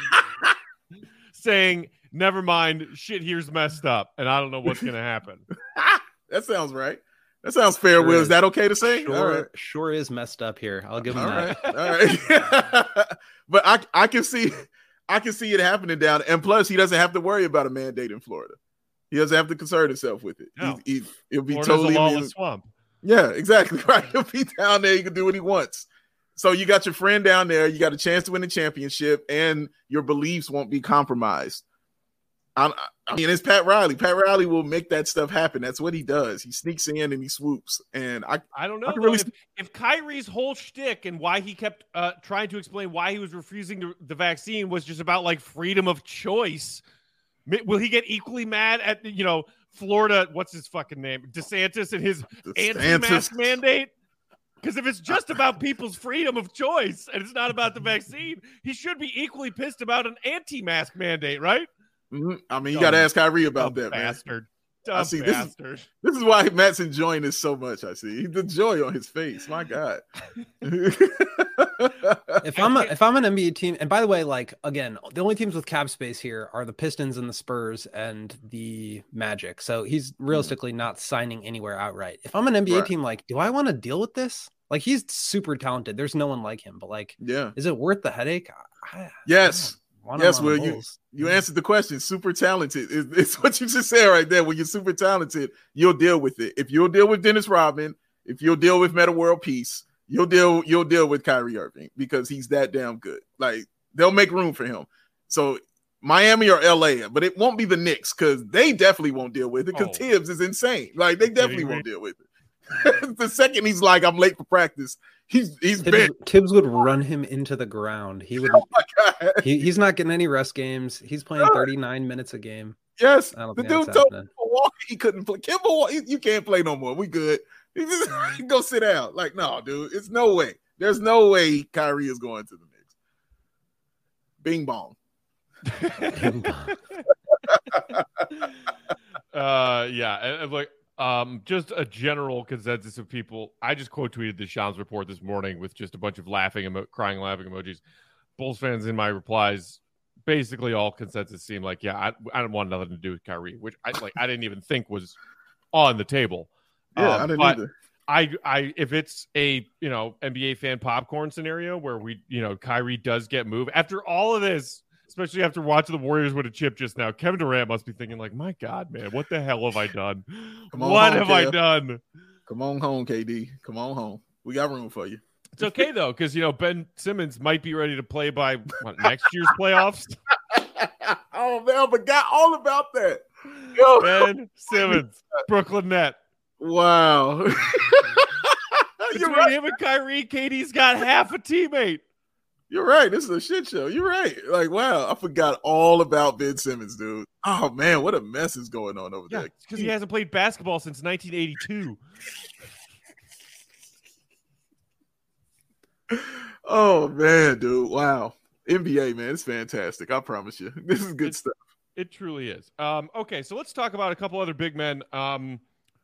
saying, "Never mind, shit here's messed up, and I don't know what's going to happen." That sounds right. That sounds fair, Sure Will. Is is. that okay to say? Sure, All right. sure is messed up here. I'll give him All that. right. All right. But I I can see I can see it happening down there. And plus, he doesn't have to worry about a mandate in Florida. He doesn't have to concern himself with it. No. He, he, he'll be Florida's totally a lawless immune. swamp. Yeah, exactly. Right. He'll be down there. He can do what he wants. So you got your friend down there. You got a chance to win the championship, and your beliefs won't be compromised. I, I mean, it's Pat Riley. Pat Riley will make that stuff happen. That's what he does. He sneaks in and he swoops. And I, I don't know I can though, really if, if Kyrie's whole shtick and why he kept uh, trying to explain why he was refusing the, the vaccine was just about like freedom of choice. Mi- Will he get equally mad at you know Florida? What's his fucking name? DeSantis and his anti-mask DeSantis. mandate. Because if it's just about people's freedom of choice and it's not about the vaccine, he should be equally pissed about an anti-mask mandate, right? Mhm. I mean, you Dumb- got to ask Kyrie about Dumb that, man. bastard. Dumb I see, this is- bastard. This is why Matt's enjoying this so much. I see the joy on his face. My God. If I'm a, if I'm an N B A team, and by the way, like again, the only teams with cap space here are the Pistons and the Spurs and the Magic. So he's realistically not signing anywhere outright. If I'm an N B A Right. team, like, do I want to deal with this? Like, he's super talented. There's no one like him, but like, Yeah. is it worth the headache? I, Yes. I want him Yes, on the Will, you- Bulls. You answered the question. Super talented. It's, it's what you just said right there. When you're super talented, you'll deal with it. If you'll deal with Dennis Rodman, if you'll deal with Meta World Peace, you'll deal you'll deal with Kyrie Irving because he's that damn good. Like they'll make room for him. So Miami or L A, but it won't be the Knicks because they definitely won't deal with it because Oh. Tibbs is insane. Like they definitely Kidding me? won't deal with it. The second he's like, I'm late for practice, he's he's Tibbs, bent. Tibbs would run him into the ground. He would. Oh my God. He, he's not getting any rest games. He's playing thirty-nine minutes a game. Yes, I don't the think dude that's told happening. Kemba Walker he couldn't play. Kemba Walker, you can't play no more. We good. He just go sit down. Like, no, dude, it's no way. There's no way Kyrie is going to the Knicks. Bing bong. Uh, yeah, and, and like um, just a general consensus of people. I just quote tweeted the Shams report this morning with just a bunch of laughing, emo- crying, laughing emojis. Bulls fans in my replies, basically all consensus seemed like, yeah, I, I don't want nothing to do with Kyrie, which I like. I didn't even think was on the table. Yeah, um, I didn't but either. I, I, if it's a you know N B A fan popcorn scenario where we, you know, Kyrie does get moved after all of this. Especially after watching the Warriors win a chip just now, Kevin Durant must be thinking like, "My God, man, what the hell have I done? Come on what home, have I Kev. done?" Come on home, K D. Come on home. We got room for you. It's okay though, because you know Ben Simmons might be ready to play by what, next year's playoffs. Oh man, I forgot all about that. Yo. Ben Simmons, Brooklyn Net. Wow. Between You're right. him and Kyrie, K D's got half a teammate. You're right. This is a shit show. You're right. Like, wow, I forgot all about Ben Simmons, dude. Oh man, what a mess is going on over Yeah, there. because he hasn't played basketball since nineteen eighty-two. Oh man, dude. Wow. N B A, man, it's fantastic. I promise you. This is good It's, stuff. It truly is. Um, okay, so let's talk about a couple other big men. Um,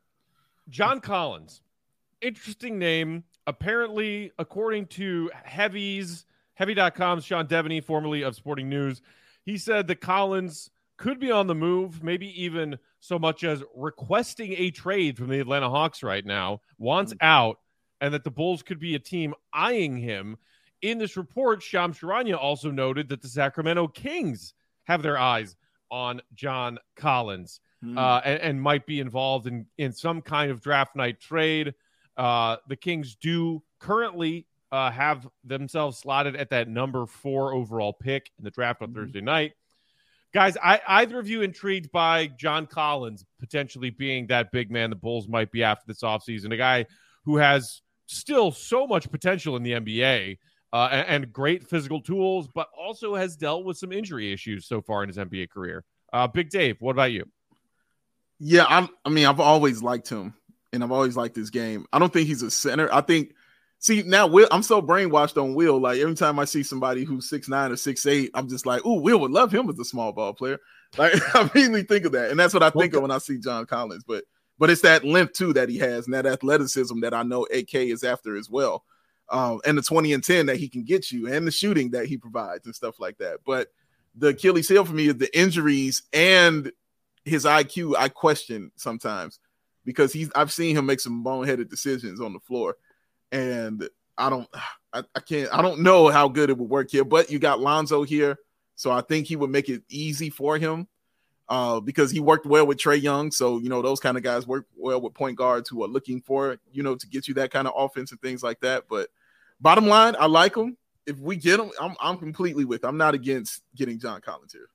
John Collins. Interesting name. Apparently, according to Heavy's Heavy dot com's Sean Devaney, formerly of Sporting News, he said that Collins could be on the move, maybe even so much as requesting a trade from the Atlanta Hawks right now, wants mm-hmm. out, and that the Bulls could be a team eyeing him. In this report, Shams Charania also noted that the Sacramento Kings have their eyes on John Collins mm-hmm. uh, and, and might be involved in, in some kind of draft night trade. Uh, the Kings do currently uh, have themselves slotted at that number four overall pick in the draft on mm-hmm. Thursday night. Guys, I, either of you intrigued by John Collins potentially being that big man the Bulls might be after this offseason, a guy who has still so much potential in the N B A uh, and, and great physical tools, but also has dealt with some injury issues so far in his N B A career. Uh, Big Dave, what about you? Yeah, I'm, I mean, I've always liked him. And I've always liked this game. I don't think he's a center. I think, see, now Will, I'm so brainwashed on Will. Like, every time I see somebody who's six nine or six eight, I'm just like, ooh, Will would love him as a small ball player. Like, I immediately think of that. And that's what I think okay. of when I see John Collins. But but it's that length, too, that he has and that athleticism that I know A K is after as well. Um, and the twenty and ten that he can get you and the shooting that he provides and stuff like that. But the Achilles heel for me is the injuries and his I Q I question sometimes. Because he's, I've seen him make some boneheaded decisions on the floor, and I don't, I, I can't, I don't know how good it would work here. But you got Lonzo here, so I think he would make it easy for him uh, because he worked well with Trae Young. So you know those kind of guys work well with point guards who are looking for you know to get you that kind of offense and things like that. But bottom line, I like him. If we get him, I'm I'm completely with. I'm not against getting John Collins here.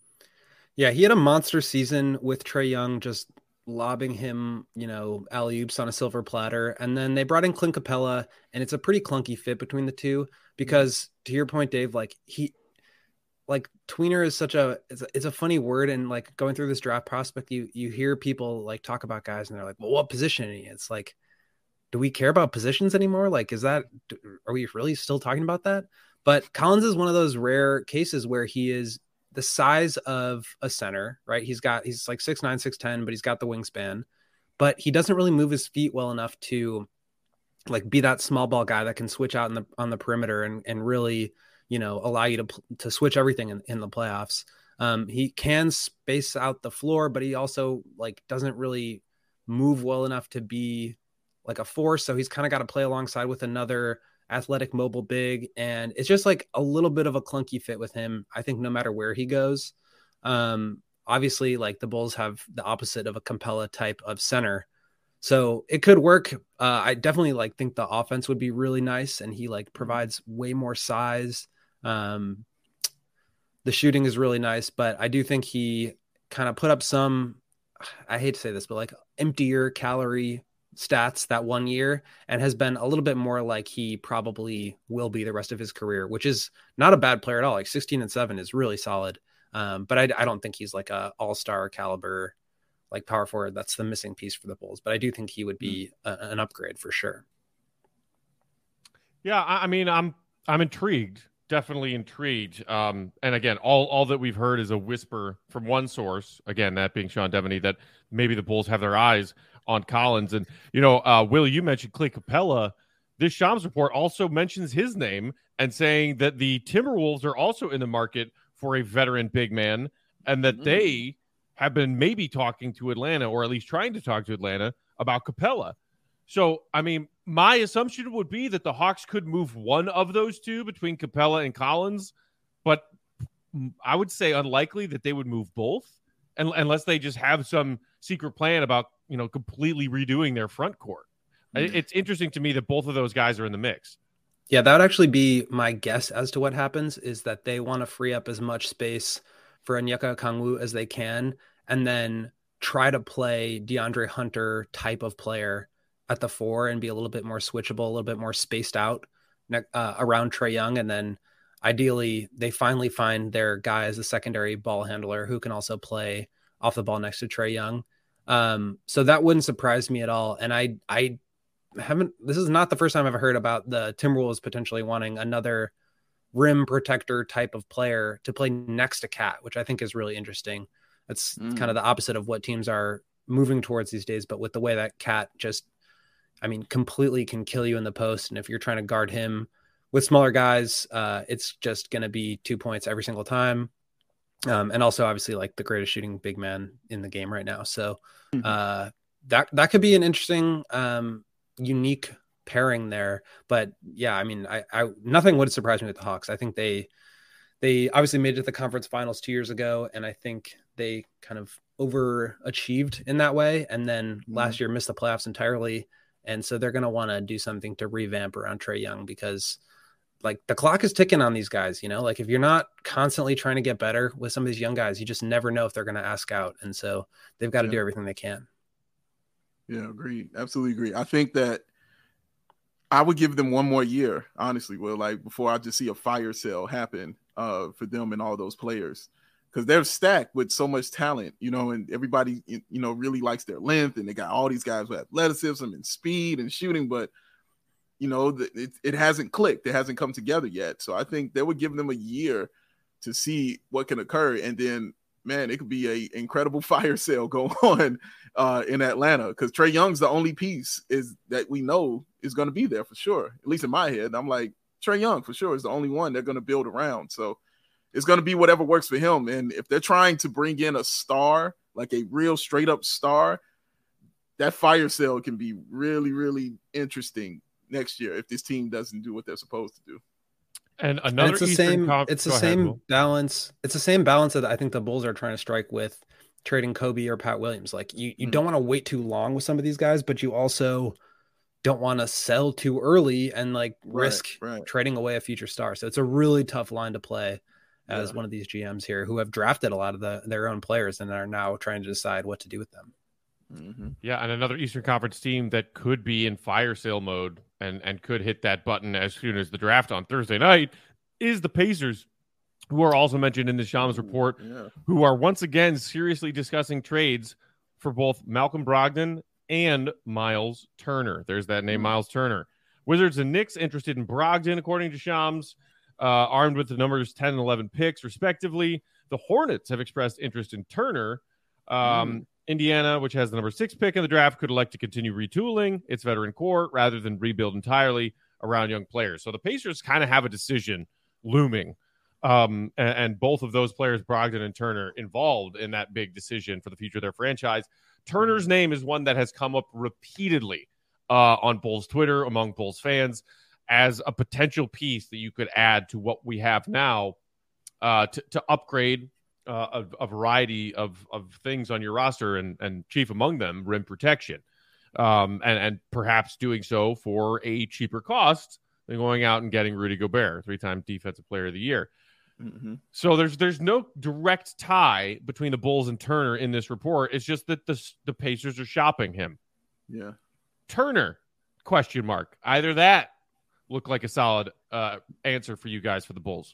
Yeah, he had a monster season with Trae Young, just lobbing him, you know, alley-oops on a silver platter. And then they brought in Clint Capella, and it's a pretty clunky fit between the two because to your point, Dave, like he, like tweener is such a, it's a, it's a funny word. And like going through this draft prospect, you, you hear people like talk about guys and they're like, well, what position? It's like, do we care about positions anymore? Like, is that, are we really still talking about that? But Collins is one of those rare cases where he is the size of a center, right? He's got, he's like six nine, six ten, but he's got the wingspan, but he doesn't really move his feet well enough to like be that small ball guy that can switch out in the, on the perimeter and, and really, you know, allow you to, to switch everything in, in the playoffs. Um, he can space out the floor, but he also like doesn't really move well enough to be like a force. So he's kind of got to play alongside with another athletic mobile big, and it's just like a little bit of a clunky fit with him. I think no matter where he goes, um, obviously like the Bulls have the opposite of a Capella type of center, so it could work. Uh, I definitely like think the offense would be really nice, and he like provides way more size. Um, the shooting is really nice, but I do think he kind of put up some, I hate to say this, but like emptier calorie stats that one year and has been a little bit more like he probably will be the rest of his career, which is not a bad player at all. Like sixteen and seven is really solid. Um, but I, I don't think he's like a all-star caliber, like power forward. That's the missing piece for the Bulls, but I do think he would be a, an upgrade for sure. Yeah. I, I mean, I'm, I'm intrigued. definitely intrigued. Um, and again, all all that we've heard is a whisper from one source. Again, that being Sean Devaney, that maybe the Bulls have their eyes on Collins. And you know, uh, Will, you mentioned Clint Capella. This Shams report also mentions his name and saying that the Timberwolves are also in the market for a veteran big man, and that mm. they have been maybe talking to Atlanta, or at least trying to talk to Atlanta about Capella. So, I mean, my assumption would be that the Hawks could move one of those two between Capella and Collins, but I would say unlikely that they would move both, unless they just have some secret plan about, you know, completely redoing their front court. Mm. It's interesting to me that both of those guys are in the mix. Yeah, that would actually be my guess as to what happens, is that they want to free up as much space for Onyeka Okongwu as they can, and then try to play DeAndre Hunter type of player at the four and be a little bit more switchable, a little bit more spaced out uh, around Trae Young. And then ideally they finally find their guy as a secondary ball handler who can also play off the ball next to Trae Young. Um, so that wouldn't surprise me at all. And I, I haven't, this is not the first time I've heard about the Timberwolves potentially wanting another rim protector type of player to play next to Cat, which I think is really interesting. That's mm. kind of the opposite of what teams are moving towards these days. But with the way that Cat just, I mean, completely can kill you in the post. And if you're trying to guard him with smaller guys, uh, it's just going to be two points every single time. Um, and also obviously like the greatest shooting big man in the game right now. So uh, that, that could be an interesting, um, unique pairing there. But yeah, I mean, I, I, nothing would surprise me with the Hawks. I think they, they obviously made it to the conference finals two years ago. And I think they kind of overachieved in that way. And then mm-hmm. last year missed the playoffs entirely. And so they're going to want to do something to revamp around Trae Young, because like the clock is ticking on these guys, you know, like if you're not constantly trying to get better with some of these young guys, you just never know if they're going to ask out. And so they've got to yeah. do everything they can. Yeah, agreed. Absolutely agree. I think that I would give them one more year, honestly, Will, like before I just see a fire sale happen uh, for them and all those players. Because they're stacked with so much talent, you know, and everybody, you know, really likes their length, and they got all these guys with athleticism and speed and shooting, but, you know, it, it hasn't clicked. It hasn't come together yet. So I think they would give them a year to see what can occur. And then, man, it could be a incredible fire sale going on uh, in Atlanta, because Trae Young's the only piece is that we know is going to be there for sure. At least in my head, I'm like, Trae Young for sure is the only one they're going to build around. So it's going to be whatever works for him. And if they're trying to bring in a star, like a real straight up star, that fire sale can be really, really interesting next year if this team doesn't do what they're supposed to do. And another, and it's the Eastern same, Conf- it's the ahead, same Will. balance. It's the same balance that I think the Bulls are trying to strike with trading Kobe or Pat Williams. Like you, you mm. don't want to wait too long with some of these guys, but you also don't want to sell too early and like right, risk right. trading away a future star. So it's a really tough line to play as yeah. one of these G Ms here who have drafted a lot of the, their own players and are now trying to decide what to do with them. Mm-hmm. Yeah. And another Eastern Conference team that could be in fire sale mode and, and could hit that button as soon as the draft on Thursday night is the Pacers, who are also mentioned in the Shams report, yeah. who are once again seriously discussing trades for both Malcolm Brogdon and Miles Turner. There's that name, mm-hmm. Miles Turner. Wizards and Knicks interested in Brogdon, according to Shams, uh, armed with the numbers ten and eleven picks, respectively. The Hornets have expressed interest in Turner. Um, mm. Indiana, which has the number six pick in the draft, could elect to continue retooling its veteran core rather than rebuild entirely around young players. So the Pacers kind of have a decision looming. Um, and, and both of those players, Brogdon and Turner, involved in that big decision for the future of their franchise. Turner's name is one that has come up repeatedly uh, on Bulls Twitter, among Bulls fans, as a potential piece that you could add to what we have now uh, to, to upgrade uh, a, a variety of, of things on your roster, and, and chief among them, rim protection. Um, and, and perhaps doing so for a cheaper cost than going out and getting Rudy Gobert, three-time Defensive Player of the Year. Mm-hmm. So there's there's no direct tie between the Bulls and Turner in this report. It's just that the the Pacers are shopping him. Yeah. Turner, question mark. Either that look like a solid uh, answer for you guys for the Bulls.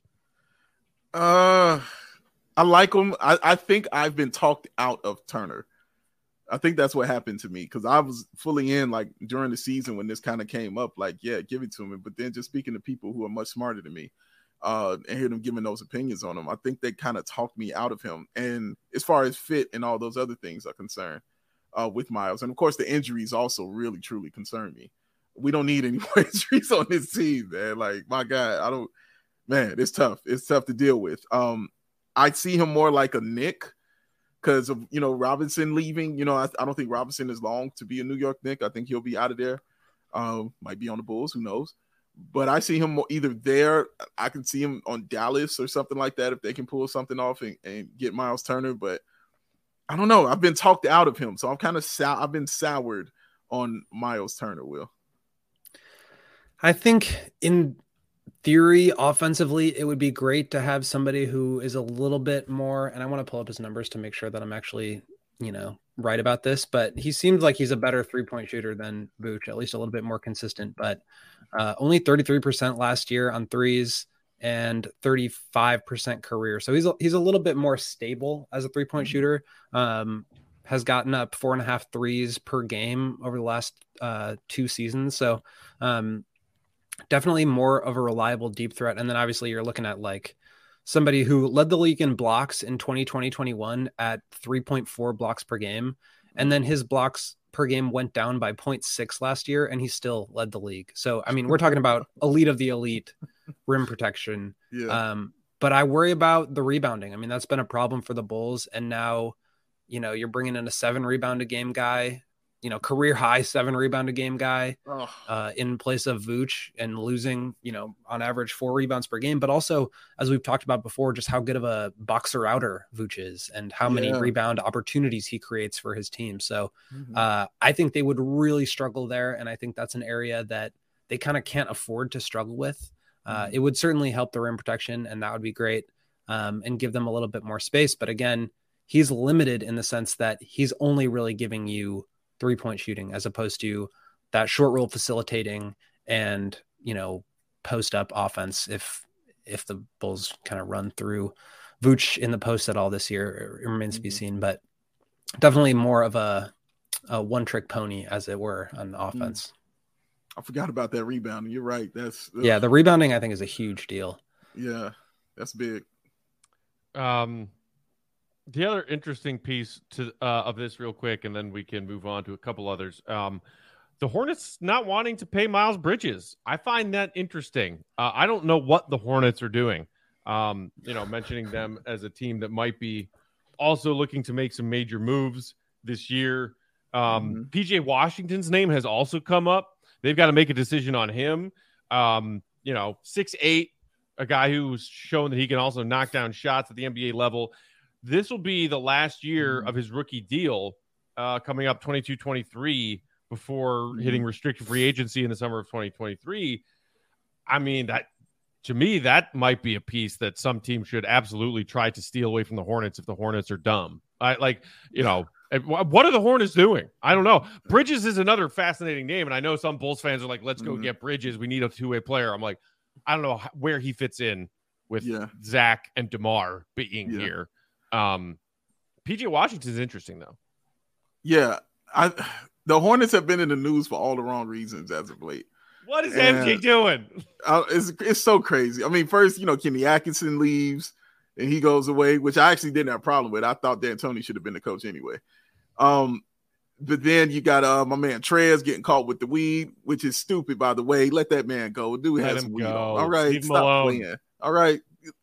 Uh, I like him. I, I think I've been talked out of Turner. I think that's what happened to me, because I was fully in like during the season when this kind of came up, like, yeah, give it to him. But then just speaking to people who are much smarter than me, uh, and hear them giving those opinions on him. I think they kind of talked me out of him. And as far as fit and all those other things are concerned uh, with Miles, and of course the injuries also really truly concern me. We don't need any more injuries on this team, man. Like, my God, I don't, man, it's tough. It's tough to deal with. Um, I see him more like a Knick because of, you know, Robinson leaving. You know, I, I don't think Robinson is long to be a New York Knick. I think he'll be out of there. Um, might be on the Bulls, who knows? But I see him more either there. I can see him on Dallas or something like that if they can pull something off and, and get Miles Turner. But I don't know. I've been talked out of him, so I'm kind of sour. I've been soured on Miles Turner, Will. I think in theory, offensively, it would be great to have somebody who is a little bit more, and I want to pull up his numbers to make sure that I'm actually, you know, right about this, but he seems like he's a better three-point shooter than Vooch, at least a little bit more consistent, but uh, only thirty-three percent last year on threes and thirty-five percent career. So he's a, he's a little bit more stable as a three-point shooter. Um, has gotten up four and a half threes per game over the last uh, two seasons. So um, definitely more of a reliable deep threat. And then obviously you're looking at like somebody who led the league in blocks in twenty twenty, twenty-one at three point four blocks per game. And then his blocks per game went down by zero point six last year, and he still led the league. So, I mean, we're talking about elite of the elite rim protection. Yeah. Um, but I worry about the rebounding. I mean, that's been a problem for the Bulls. And now, you know, you're bringing in a seven rebound a game guy, you know, career high seven rebound a game guy Oh. uh, in place of Vooch, and losing, you know, on average four rebounds per game. But also, as we've talked about before, just how good of a boxer outer Vooch is and how many Yeah. rebound opportunities he creates for his team. So Mhm. uh, I think they would really struggle there. And I think that's an area that they kind of can't afford to struggle with. Uh, Mhm. It would certainly help the rim protection, and that would be great, um, and give them a little bit more space. But again, he's limited in the sense that he's only really giving you three-point shooting as opposed to that short roll facilitating and, you know, post up offense. If, if the Bulls kind of run through Vooch in the post at all this year, it remains to be Mhm. seen, but definitely more of a, a one trick pony, as it were, on offense. I forgot about that rebounding. You're right. That's ugh. Yeah. The rebounding, I think, is a huge deal. yeah, that's big. Um, the other interesting piece to uh, of this, real quick, and then we can move on to a couple others. Um, the Hornets not wanting to pay Miles Bridges. I find that interesting. Uh, I don't know what the Hornets are doing. Um, you know, mentioning them as a team that might be also looking to make some major moves this year. Um, Mhm. P J Washington's name has also come up. They've got to make a decision on him. Um, you know, six eight, a guy who's shown that he can also knock down shots at the N B A level. This will be the last year Mhm. of his rookie deal uh, coming up twenty-two twenty-three before Mhm. hitting restricted free agency in the summer of twenty twenty-three. I mean, that to me, that might be a piece that some team should absolutely try to steal away from the Hornets if the Hornets are dumb. I like, you know, what are the Hornets doing? I don't know. Bridges is another fascinating name, and I know some Bulls fans are like, let's go Mhm. get Bridges. We need a two-way player. I'm like, I don't know where he fits in with Yeah. Zach and DeMar being Yeah. here. Um, P J Washington is interesting, though. Yeah, I the Hornets have been in the news for all the wrong reasons as of late. What is And- M J doing? Uh, it's it's so crazy. I mean, first, you know, Kenny Atkinson leaves and he goes away, which I actually didn't have a problem with. I thought D'Antoni should have been the coach anyway. Um, but then you got uh my man Trez getting caught with the weed, which is stupid, by the way. Let that man go. Dude Let has him weed go. on. All right, Leave him stop alone. playing. All right,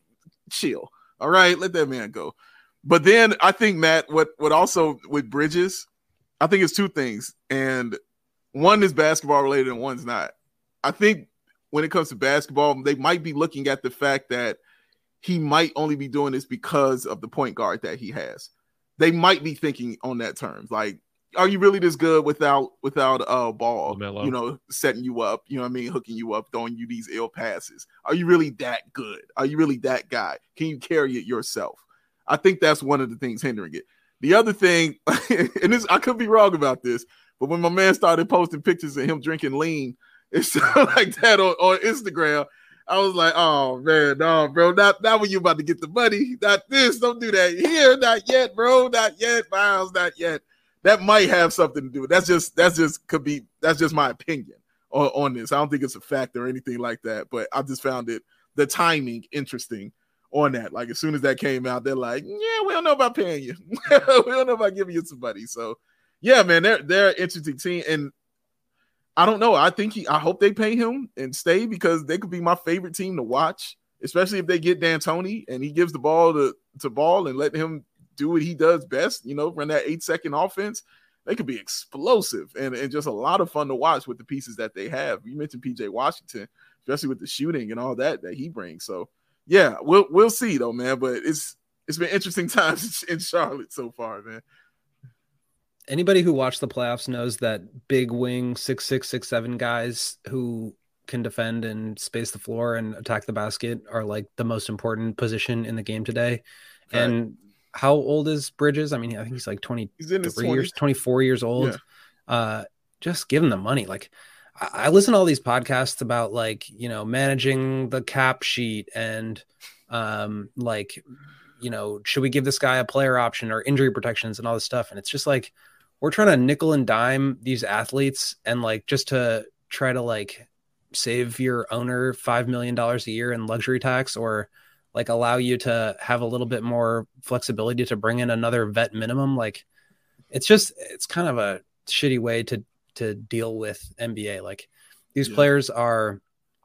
chill. All right, let that man go. But then I think, Matt, what what also with Bridges, I think it's two things, and one is basketball related and one's not. I think when it comes to basketball, they might be looking at the fact that he might only be doing this because of the point guard that he has. They might be thinking on that terms, like, are you really this good without without a uh, ball? LaMelo. You know, setting you up. You know what I mean, hooking you up, throwing you these ill passes. Are you really that good? Are you really that guy? Can you carry it yourself? I think that's one of the things hindering it. The other thing, and this, I could be wrong about this, but when my man started posting pictures of him drinking lean, it's like that on, on Instagram, I was like, oh man, no, bro, not, not when you about to get the money, not this, don't do that here, not yet, bro, not yet, Miles, not yet. That might have something to do with it. That's just, that's just could be, that's just my opinion on, on this. I don't think it's a fact or anything like that, but I just found it the timing interesting on that. Like as soon as that came out, they're like, yeah, we don't know about paying you. We don't know about giving you some money. So yeah, man, they're they're an interesting team. And I don't know. I think he I hope they pay him and stay because they could be my favorite team to watch, especially if they get D'Antoni and he gives the ball to, to Ball and let him do what he does best, you know, run that eight second offense. They could be explosive and, and just a lot of fun to watch with the pieces that they have. You mentioned P J Washington, especially with the shooting and all that that he brings. So yeah, we'll we'll see though, man. But it's it's been interesting times in Charlotte so far, man. Anybody who watched the playoffs knows that big wing six six six seven guys who can defend and space the floor and attack the basket are like the most important position in the game today. Right. And how old is Bridges? I mean, I think he's like twenty-three years, twenty-four years old. Yeah. Uh, just give him the money. Like I, I listen to all these podcasts about like, you know, managing the cap sheet and um, like, you know, should we give this guy a player option or injury protections and all this stuff? And it's just like, we're trying to nickel and dime these athletes and like just to try to like save your owner five million dollars a year in luxury tax or like allow you to have a little bit more flexibility to bring in another vet minimum. Like it's just, it's kind of a shitty way to, to deal with N B A. Like these yeah. players are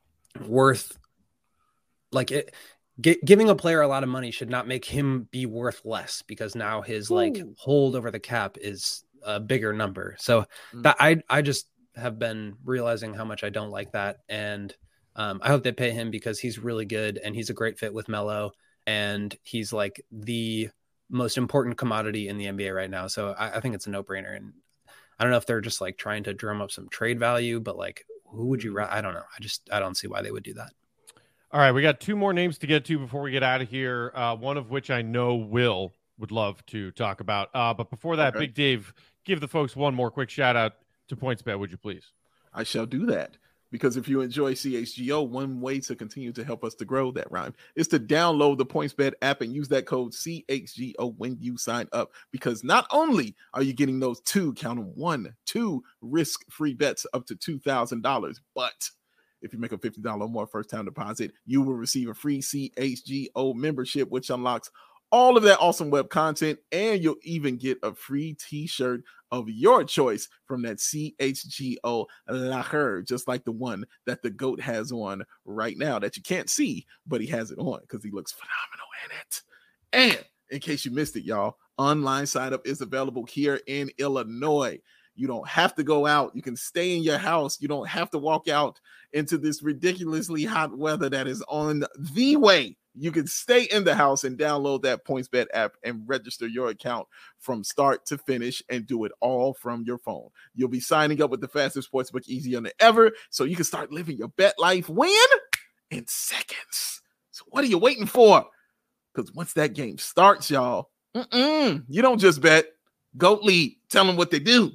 worth like it, G- giving a player a lot of money should not make him be worth less because now his Ooh. like hold over the cap is a bigger number. So mm. that I, I just have been realizing how much I don't like that. And um, I hope they pay him because he's really good and he's a great fit with Melo and he's like the most important commodity in the N B A right now. So I, I think it's a no brainer. And I don't know if they're just like trying to drum up some trade value, but like, who would you, ra- I don't know. I just, I don't see why they would do that. All right. We got two more names to get to before we get out of here. Uh, one of which I know Will would love to talk about. Uh, but before that, okay. Big Dave, give the folks one more quick shout out to PointsBet, would you please? I shall do that. Because if you enjoy C H G O, one way to continue to help us to grow that rhyme is to download the PointsBet app and use that code C H G O when you sign up. Because not only are you getting those two, count them, one, two risk-free bets up to two thousand dollars, but if you make a fifty dollars or more first-time deposit, you will receive a free C H G O membership, which unlocks all of that awesome web content, and you'll even get a free t-shirt of your choice from that C H G O locker, just like the one that the GOAT has on right now that you can't see, but he has it on because he looks phenomenal in it. And in case you missed it, y'all, online sign up is available here in Illinois. You don't have to go out. You can stay in your house. You don't have to walk out into this ridiculously hot weather that is on the way. You can stay in the house and download that PointsBet app and register your account from start to finish and do it all from your phone. You'll be signing up with the fastest sportsbook easier than ever, so you can start living your bet life when? In seconds. So what are you waiting for? Because once that game starts, y'all, mm-mm, you don't just bet. GOAT Lead. Tell them what they do.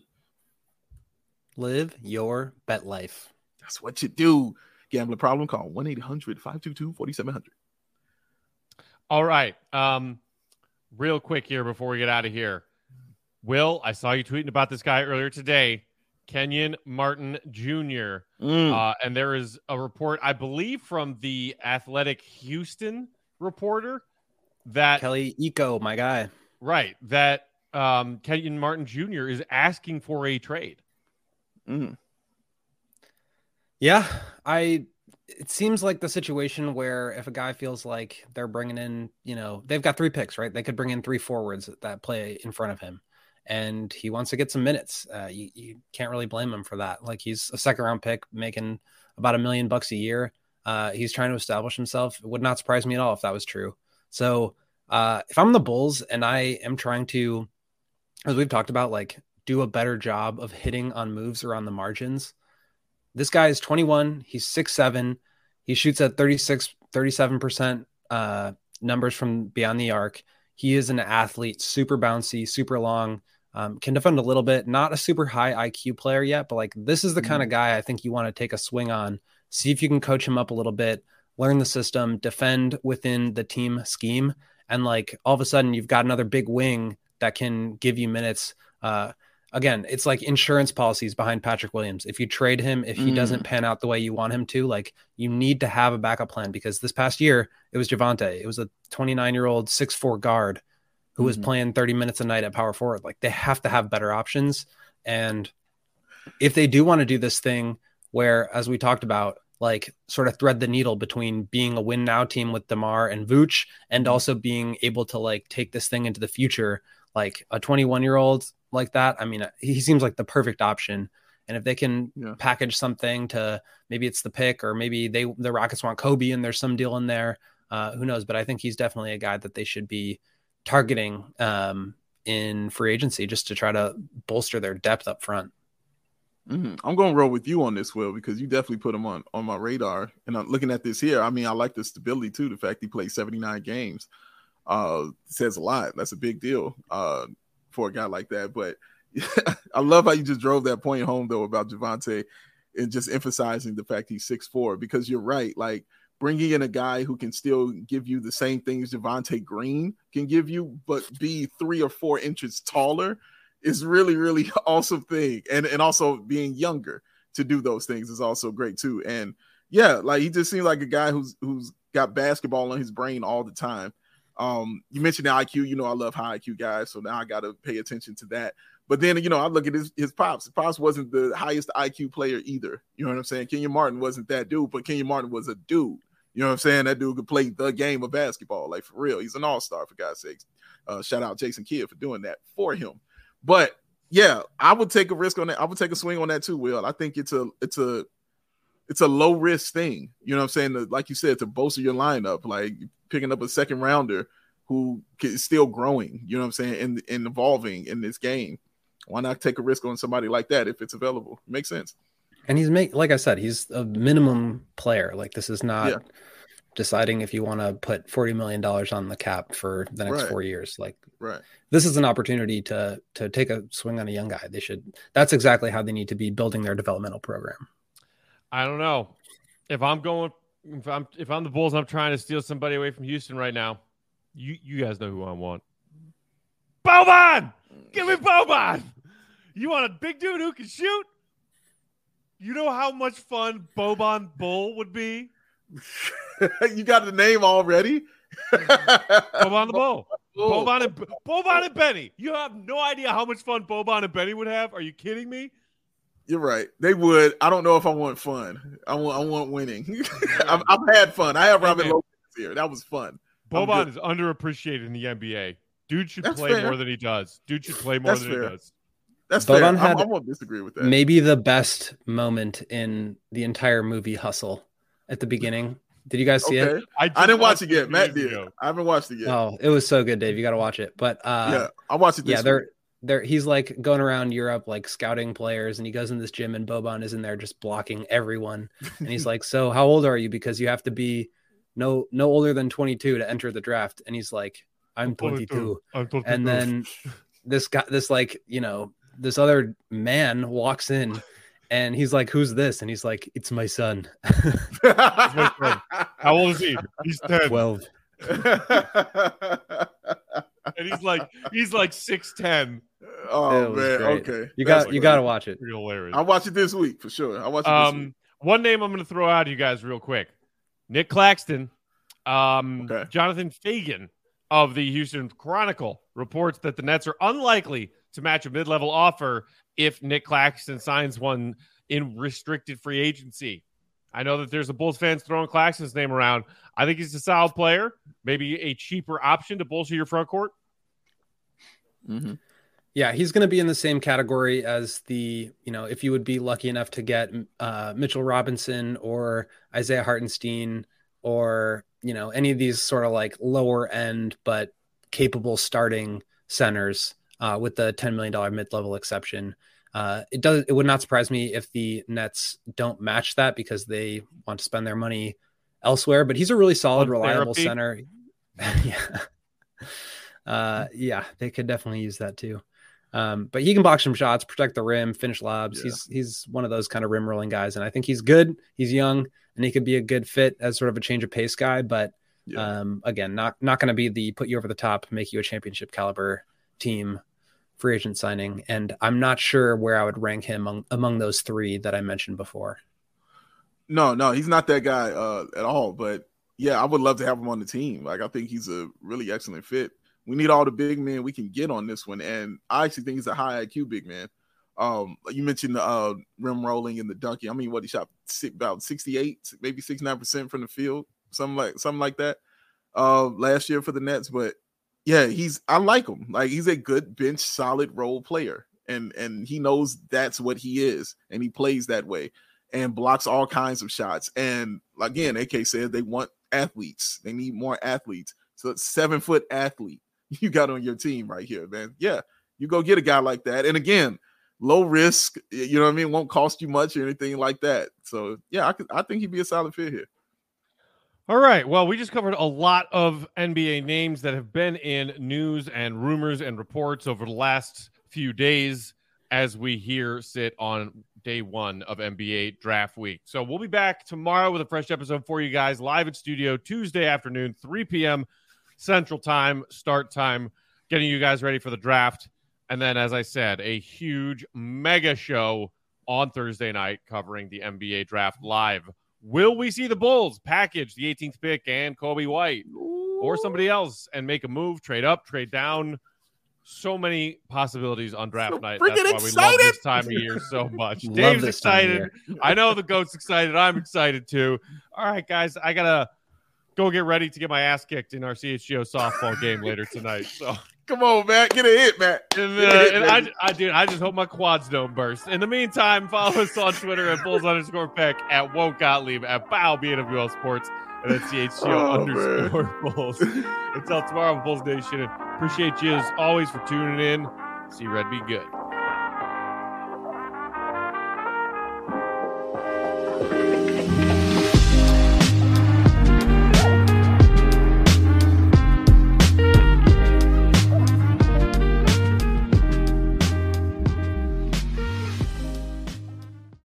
Live your bet life. That's what you do. Gambling problem? Call one eight hundred five two two four seven zero zero. All right. Um, real quick here before we get out of here. Will, I saw you tweeting about this guy earlier today, Kenyon Martin Junior Mm. Uh, and there is a report, I believe, from the Athletic Houston reporter that Kelly Eco, my guy. Right. That um, Kenyon Martin Junior is asking for a trade. Mm. Yeah, I... It seems like the situation where if a guy feels like they're bringing in, you know, they've got three picks, right? They could bring in three forwards that play in front of him and he wants to get some minutes. Uh, you, you can't really blame him for that. Like he's a second round pick making about a million bucks a year. Uh, he's trying to establish himself. It would not surprise me at all if that was true. So uh, if I'm the Bulls and I am trying to, as we've talked about, like do a better job of hitting on moves around the margins, this guy is twenty-one. He's six seven. He shoots at thirty-six, thirty-seven percent uh, numbers from beyond the arc. He is an athlete, super bouncy, super long, um, can defend a little bit. Not a super high I Q player yet, but like this is the mm-hmm. kind of guy I think you want to take a swing on. See if you can coach him up a little bit, learn the system, defend within the team scheme. And like all of a sudden you've got another big wing that can give you minutes. Uh, again, it's like insurance policies behind Patrick Williams. If you trade him, if he mm. doesn't pan out the way you want him to, like you need to have a backup plan, because this past year it was Javonte. It was a twenty-nine year old six foot four guard who mm. was playing thirty minutes a night at power forward. Like they have to have better options. And if they do want to do this thing where, as we talked about, like sort of thread the needle between being a win now team with DeMar and Vooch and also being able to like take this thing into the future, like a twenty-one year old like that. I mean, he seems like the perfect option. And if they can yeah. package something to, maybe it's the pick, or maybe they, the Rockets want Kobe and there's some deal in there, uh, who knows? But I think he's definitely a guy that they should be targeting um, in free agency, just to try to bolster their depth up front. Mm-hmm. I'm going to roll with you on this, Will, because you definitely put him on, on my radar. And I'm looking at this here. I mean, I like the stability too. The fact he played seventy-nine games uh, says a lot. That's a big deal uh, for a guy like that. But I love how you just drove that point home, though, about Javonte and just emphasizing the fact he's six foot four, because you're right. Like bringing in a guy who can still give you the same things Javonte Green can give you, but be three or four inches taller is really, really awesome thing. And and also being younger to do those things is also great too. And yeah, like he just seems like a guy who's who's got basketball on his brain all the time. Um, you mentioned the I Q. You know, I love high I Q guys, so now I got to pay attention to that. But then, you know, I look at his, his pops. His pops wasn't the highest I Q player either. You know what I'm saying? Kenyon Martin wasn't that dude, but Kenyon Martin was a dude. You know what I'm saying? That dude could play the game of basketball, like for real. He's an all-star, for God's sakes. Uh, shout out Jason Kidd for doing that for him. But yeah, I would take a risk on that. I would take a swing on that too, Will. I think it's a it's a it's a low risk thing. You know what I'm saying? To, like you said, to bolster your lineup, like picking up a second rounder who is still growing. You know what I'm saying? And and evolving in this game. Why not take a risk on somebody like that if it's available? Makes sense. And he's make like I said, he's a minimum player. Like this is not yeah. deciding if you want to put forty million dollars on the cap for the next right. four years. Like right. this is an opportunity to to take a swing on a young guy. They should. That's exactly how they need to be building their developmental program. I don't know if I'm going. If I'm if I'm the Bulls, I'm trying to steal somebody away from Houston right now. You you guys know who I want. Boban! Give me Boban! You want a big dude who can shoot? You know how much fun Boban Bull would be? You got the name already? Boban the Bull. Oh. Boban and Boban and Benny. You have no idea how much fun Boban and Benny would have. Are you kidding me? You're right. They would. I don't know if I want fun. I want. I want winning. I've, I've had fun. I have Robin Lopez here. That was fun. Boban is underappreciated in the N B A. Dude should That's play fair. more than he does. Dude should play more That's than fair. he does. That's Boban fair. Had I, I won't disagree with that. Maybe the best moment in the entire movie Hustle at the beginning. Did you guys see okay. it? I, I didn't watch it yet. Matt did. Ago. I haven't watched it yet. Oh, it was so good, Dave. You got to watch it. But uh, yeah, I watched it. This yeah, they're they're he's like going around Europe, like scouting players, and he goes in this gym, and Boban is in there just blocking everyone. And he's like, "So, how old are you? Because you have to be no no older than twenty-two to enter the draft." And he's like, "I'm twenty-two." I'm twenty-two. And then this guy, this like you know, this other man walks in. And he's like, "Who's this?" And he's like, "It's my son." my son. How old is he? He's ten. Twelve. And he's like, he's like six ten. Oh man, great. Okay. You got like, you got to watch it. Hilarious. I'll watch it this week for sure. I'll watch it um, this week. One name I'm going to throw out to you guys real quick: Nick Claxton. Um, okay. Jonathan Fagan of the Houston Chronicle reports that the Nets are unlikely to match a mid-level offer if Nick Claxton signs one in restricted free agency. I know that there's a Bulls fans throwing Claxton's name around. I think he's a solid player, maybe a cheaper option to bolster your front court. Mm-hmm. Yeah, he's going to be in the same category as the, you know, if you would be lucky enough to get uh, Mitchell Robinson or Isaiah Hartenstein or, you know, any of these sort of like lower end but capable starting centers. Uh, with the ten million dollars mid-level exception. Uh, it does. It would not surprise me if the Nets don't match that because they want to spend their money elsewhere, but he's a really solid, One reliable therapy. center. yeah. Uh, yeah, they could definitely use that too. Um, but he can block some shots, protect the rim, finish lobs. Yeah. He's, he's one of those kind of rim rolling guys. And I think he's good. He's young and he could be a good fit as sort of a change of pace guy, but yeah. um, again, not, not going to be the put you over the top, make you a championship caliber team free agent signing. And I'm not sure where I would rank him among, among those three that I mentioned before. No, no, he's not that guy uh, at all. But yeah, I would love to have him on the team. Like, I think he's a really excellent fit. We need all the big men we can get on this one. And I actually think he's a high I Q big man. Um, you mentioned the uh, rim rolling and the dunking. I mean, what he shot about sixty-eight, maybe sixty-nine percent from the field, something like something like that uh, last year for the Nets. But yeah, he's I like him. Like, he's a good bench, solid role player, and and he knows that's what he is, and he plays that way and blocks all kinds of shots. And again, A K said they want athletes. They need more athletes. So it's seven foot athlete you got on your team right here, man. Yeah, you go get a guy like that. And again, low risk, you know what I mean? Won't cost you much or anything like that. So yeah, I could, I think he'd be a solid fit here. All right. Well, we just covered a lot of N B A names that have been in news and rumors and reports over the last few days as we here sit on day one of N B A draft week. So we'll be back tomorrow with a fresh episode for you guys live at studio Tuesday afternoon, three p.m. Central Time, start time, getting you guys ready for the draft. And then, as I said, a huge mega show on Thursday night covering the N B A draft live. Will we see the Bulls package the eighteenth pick and Kobe White or somebody else and make a move, trade up, trade down? So many possibilities on draft so night. That's why excited. we love this time of year so much. Dave's excited. I know the GOAT's excited. I'm excited too. All right, guys, I got to go get ready to get my ass kicked in our C H G O softball game later tonight. So come on, Matt. Get a hit, Matt. And, uh, hit, and I, I, dude, I just hope my quads don't burst. In the meantime, follow us on Twitter at Bulls underscore Peck, at Woke Gottlieb, at Bow B N W L Sports, and at C H G O oh, underscore man. Bulls. Until tomorrow, Bulls Nation. Appreciate you as always for tuning in. See Red be good.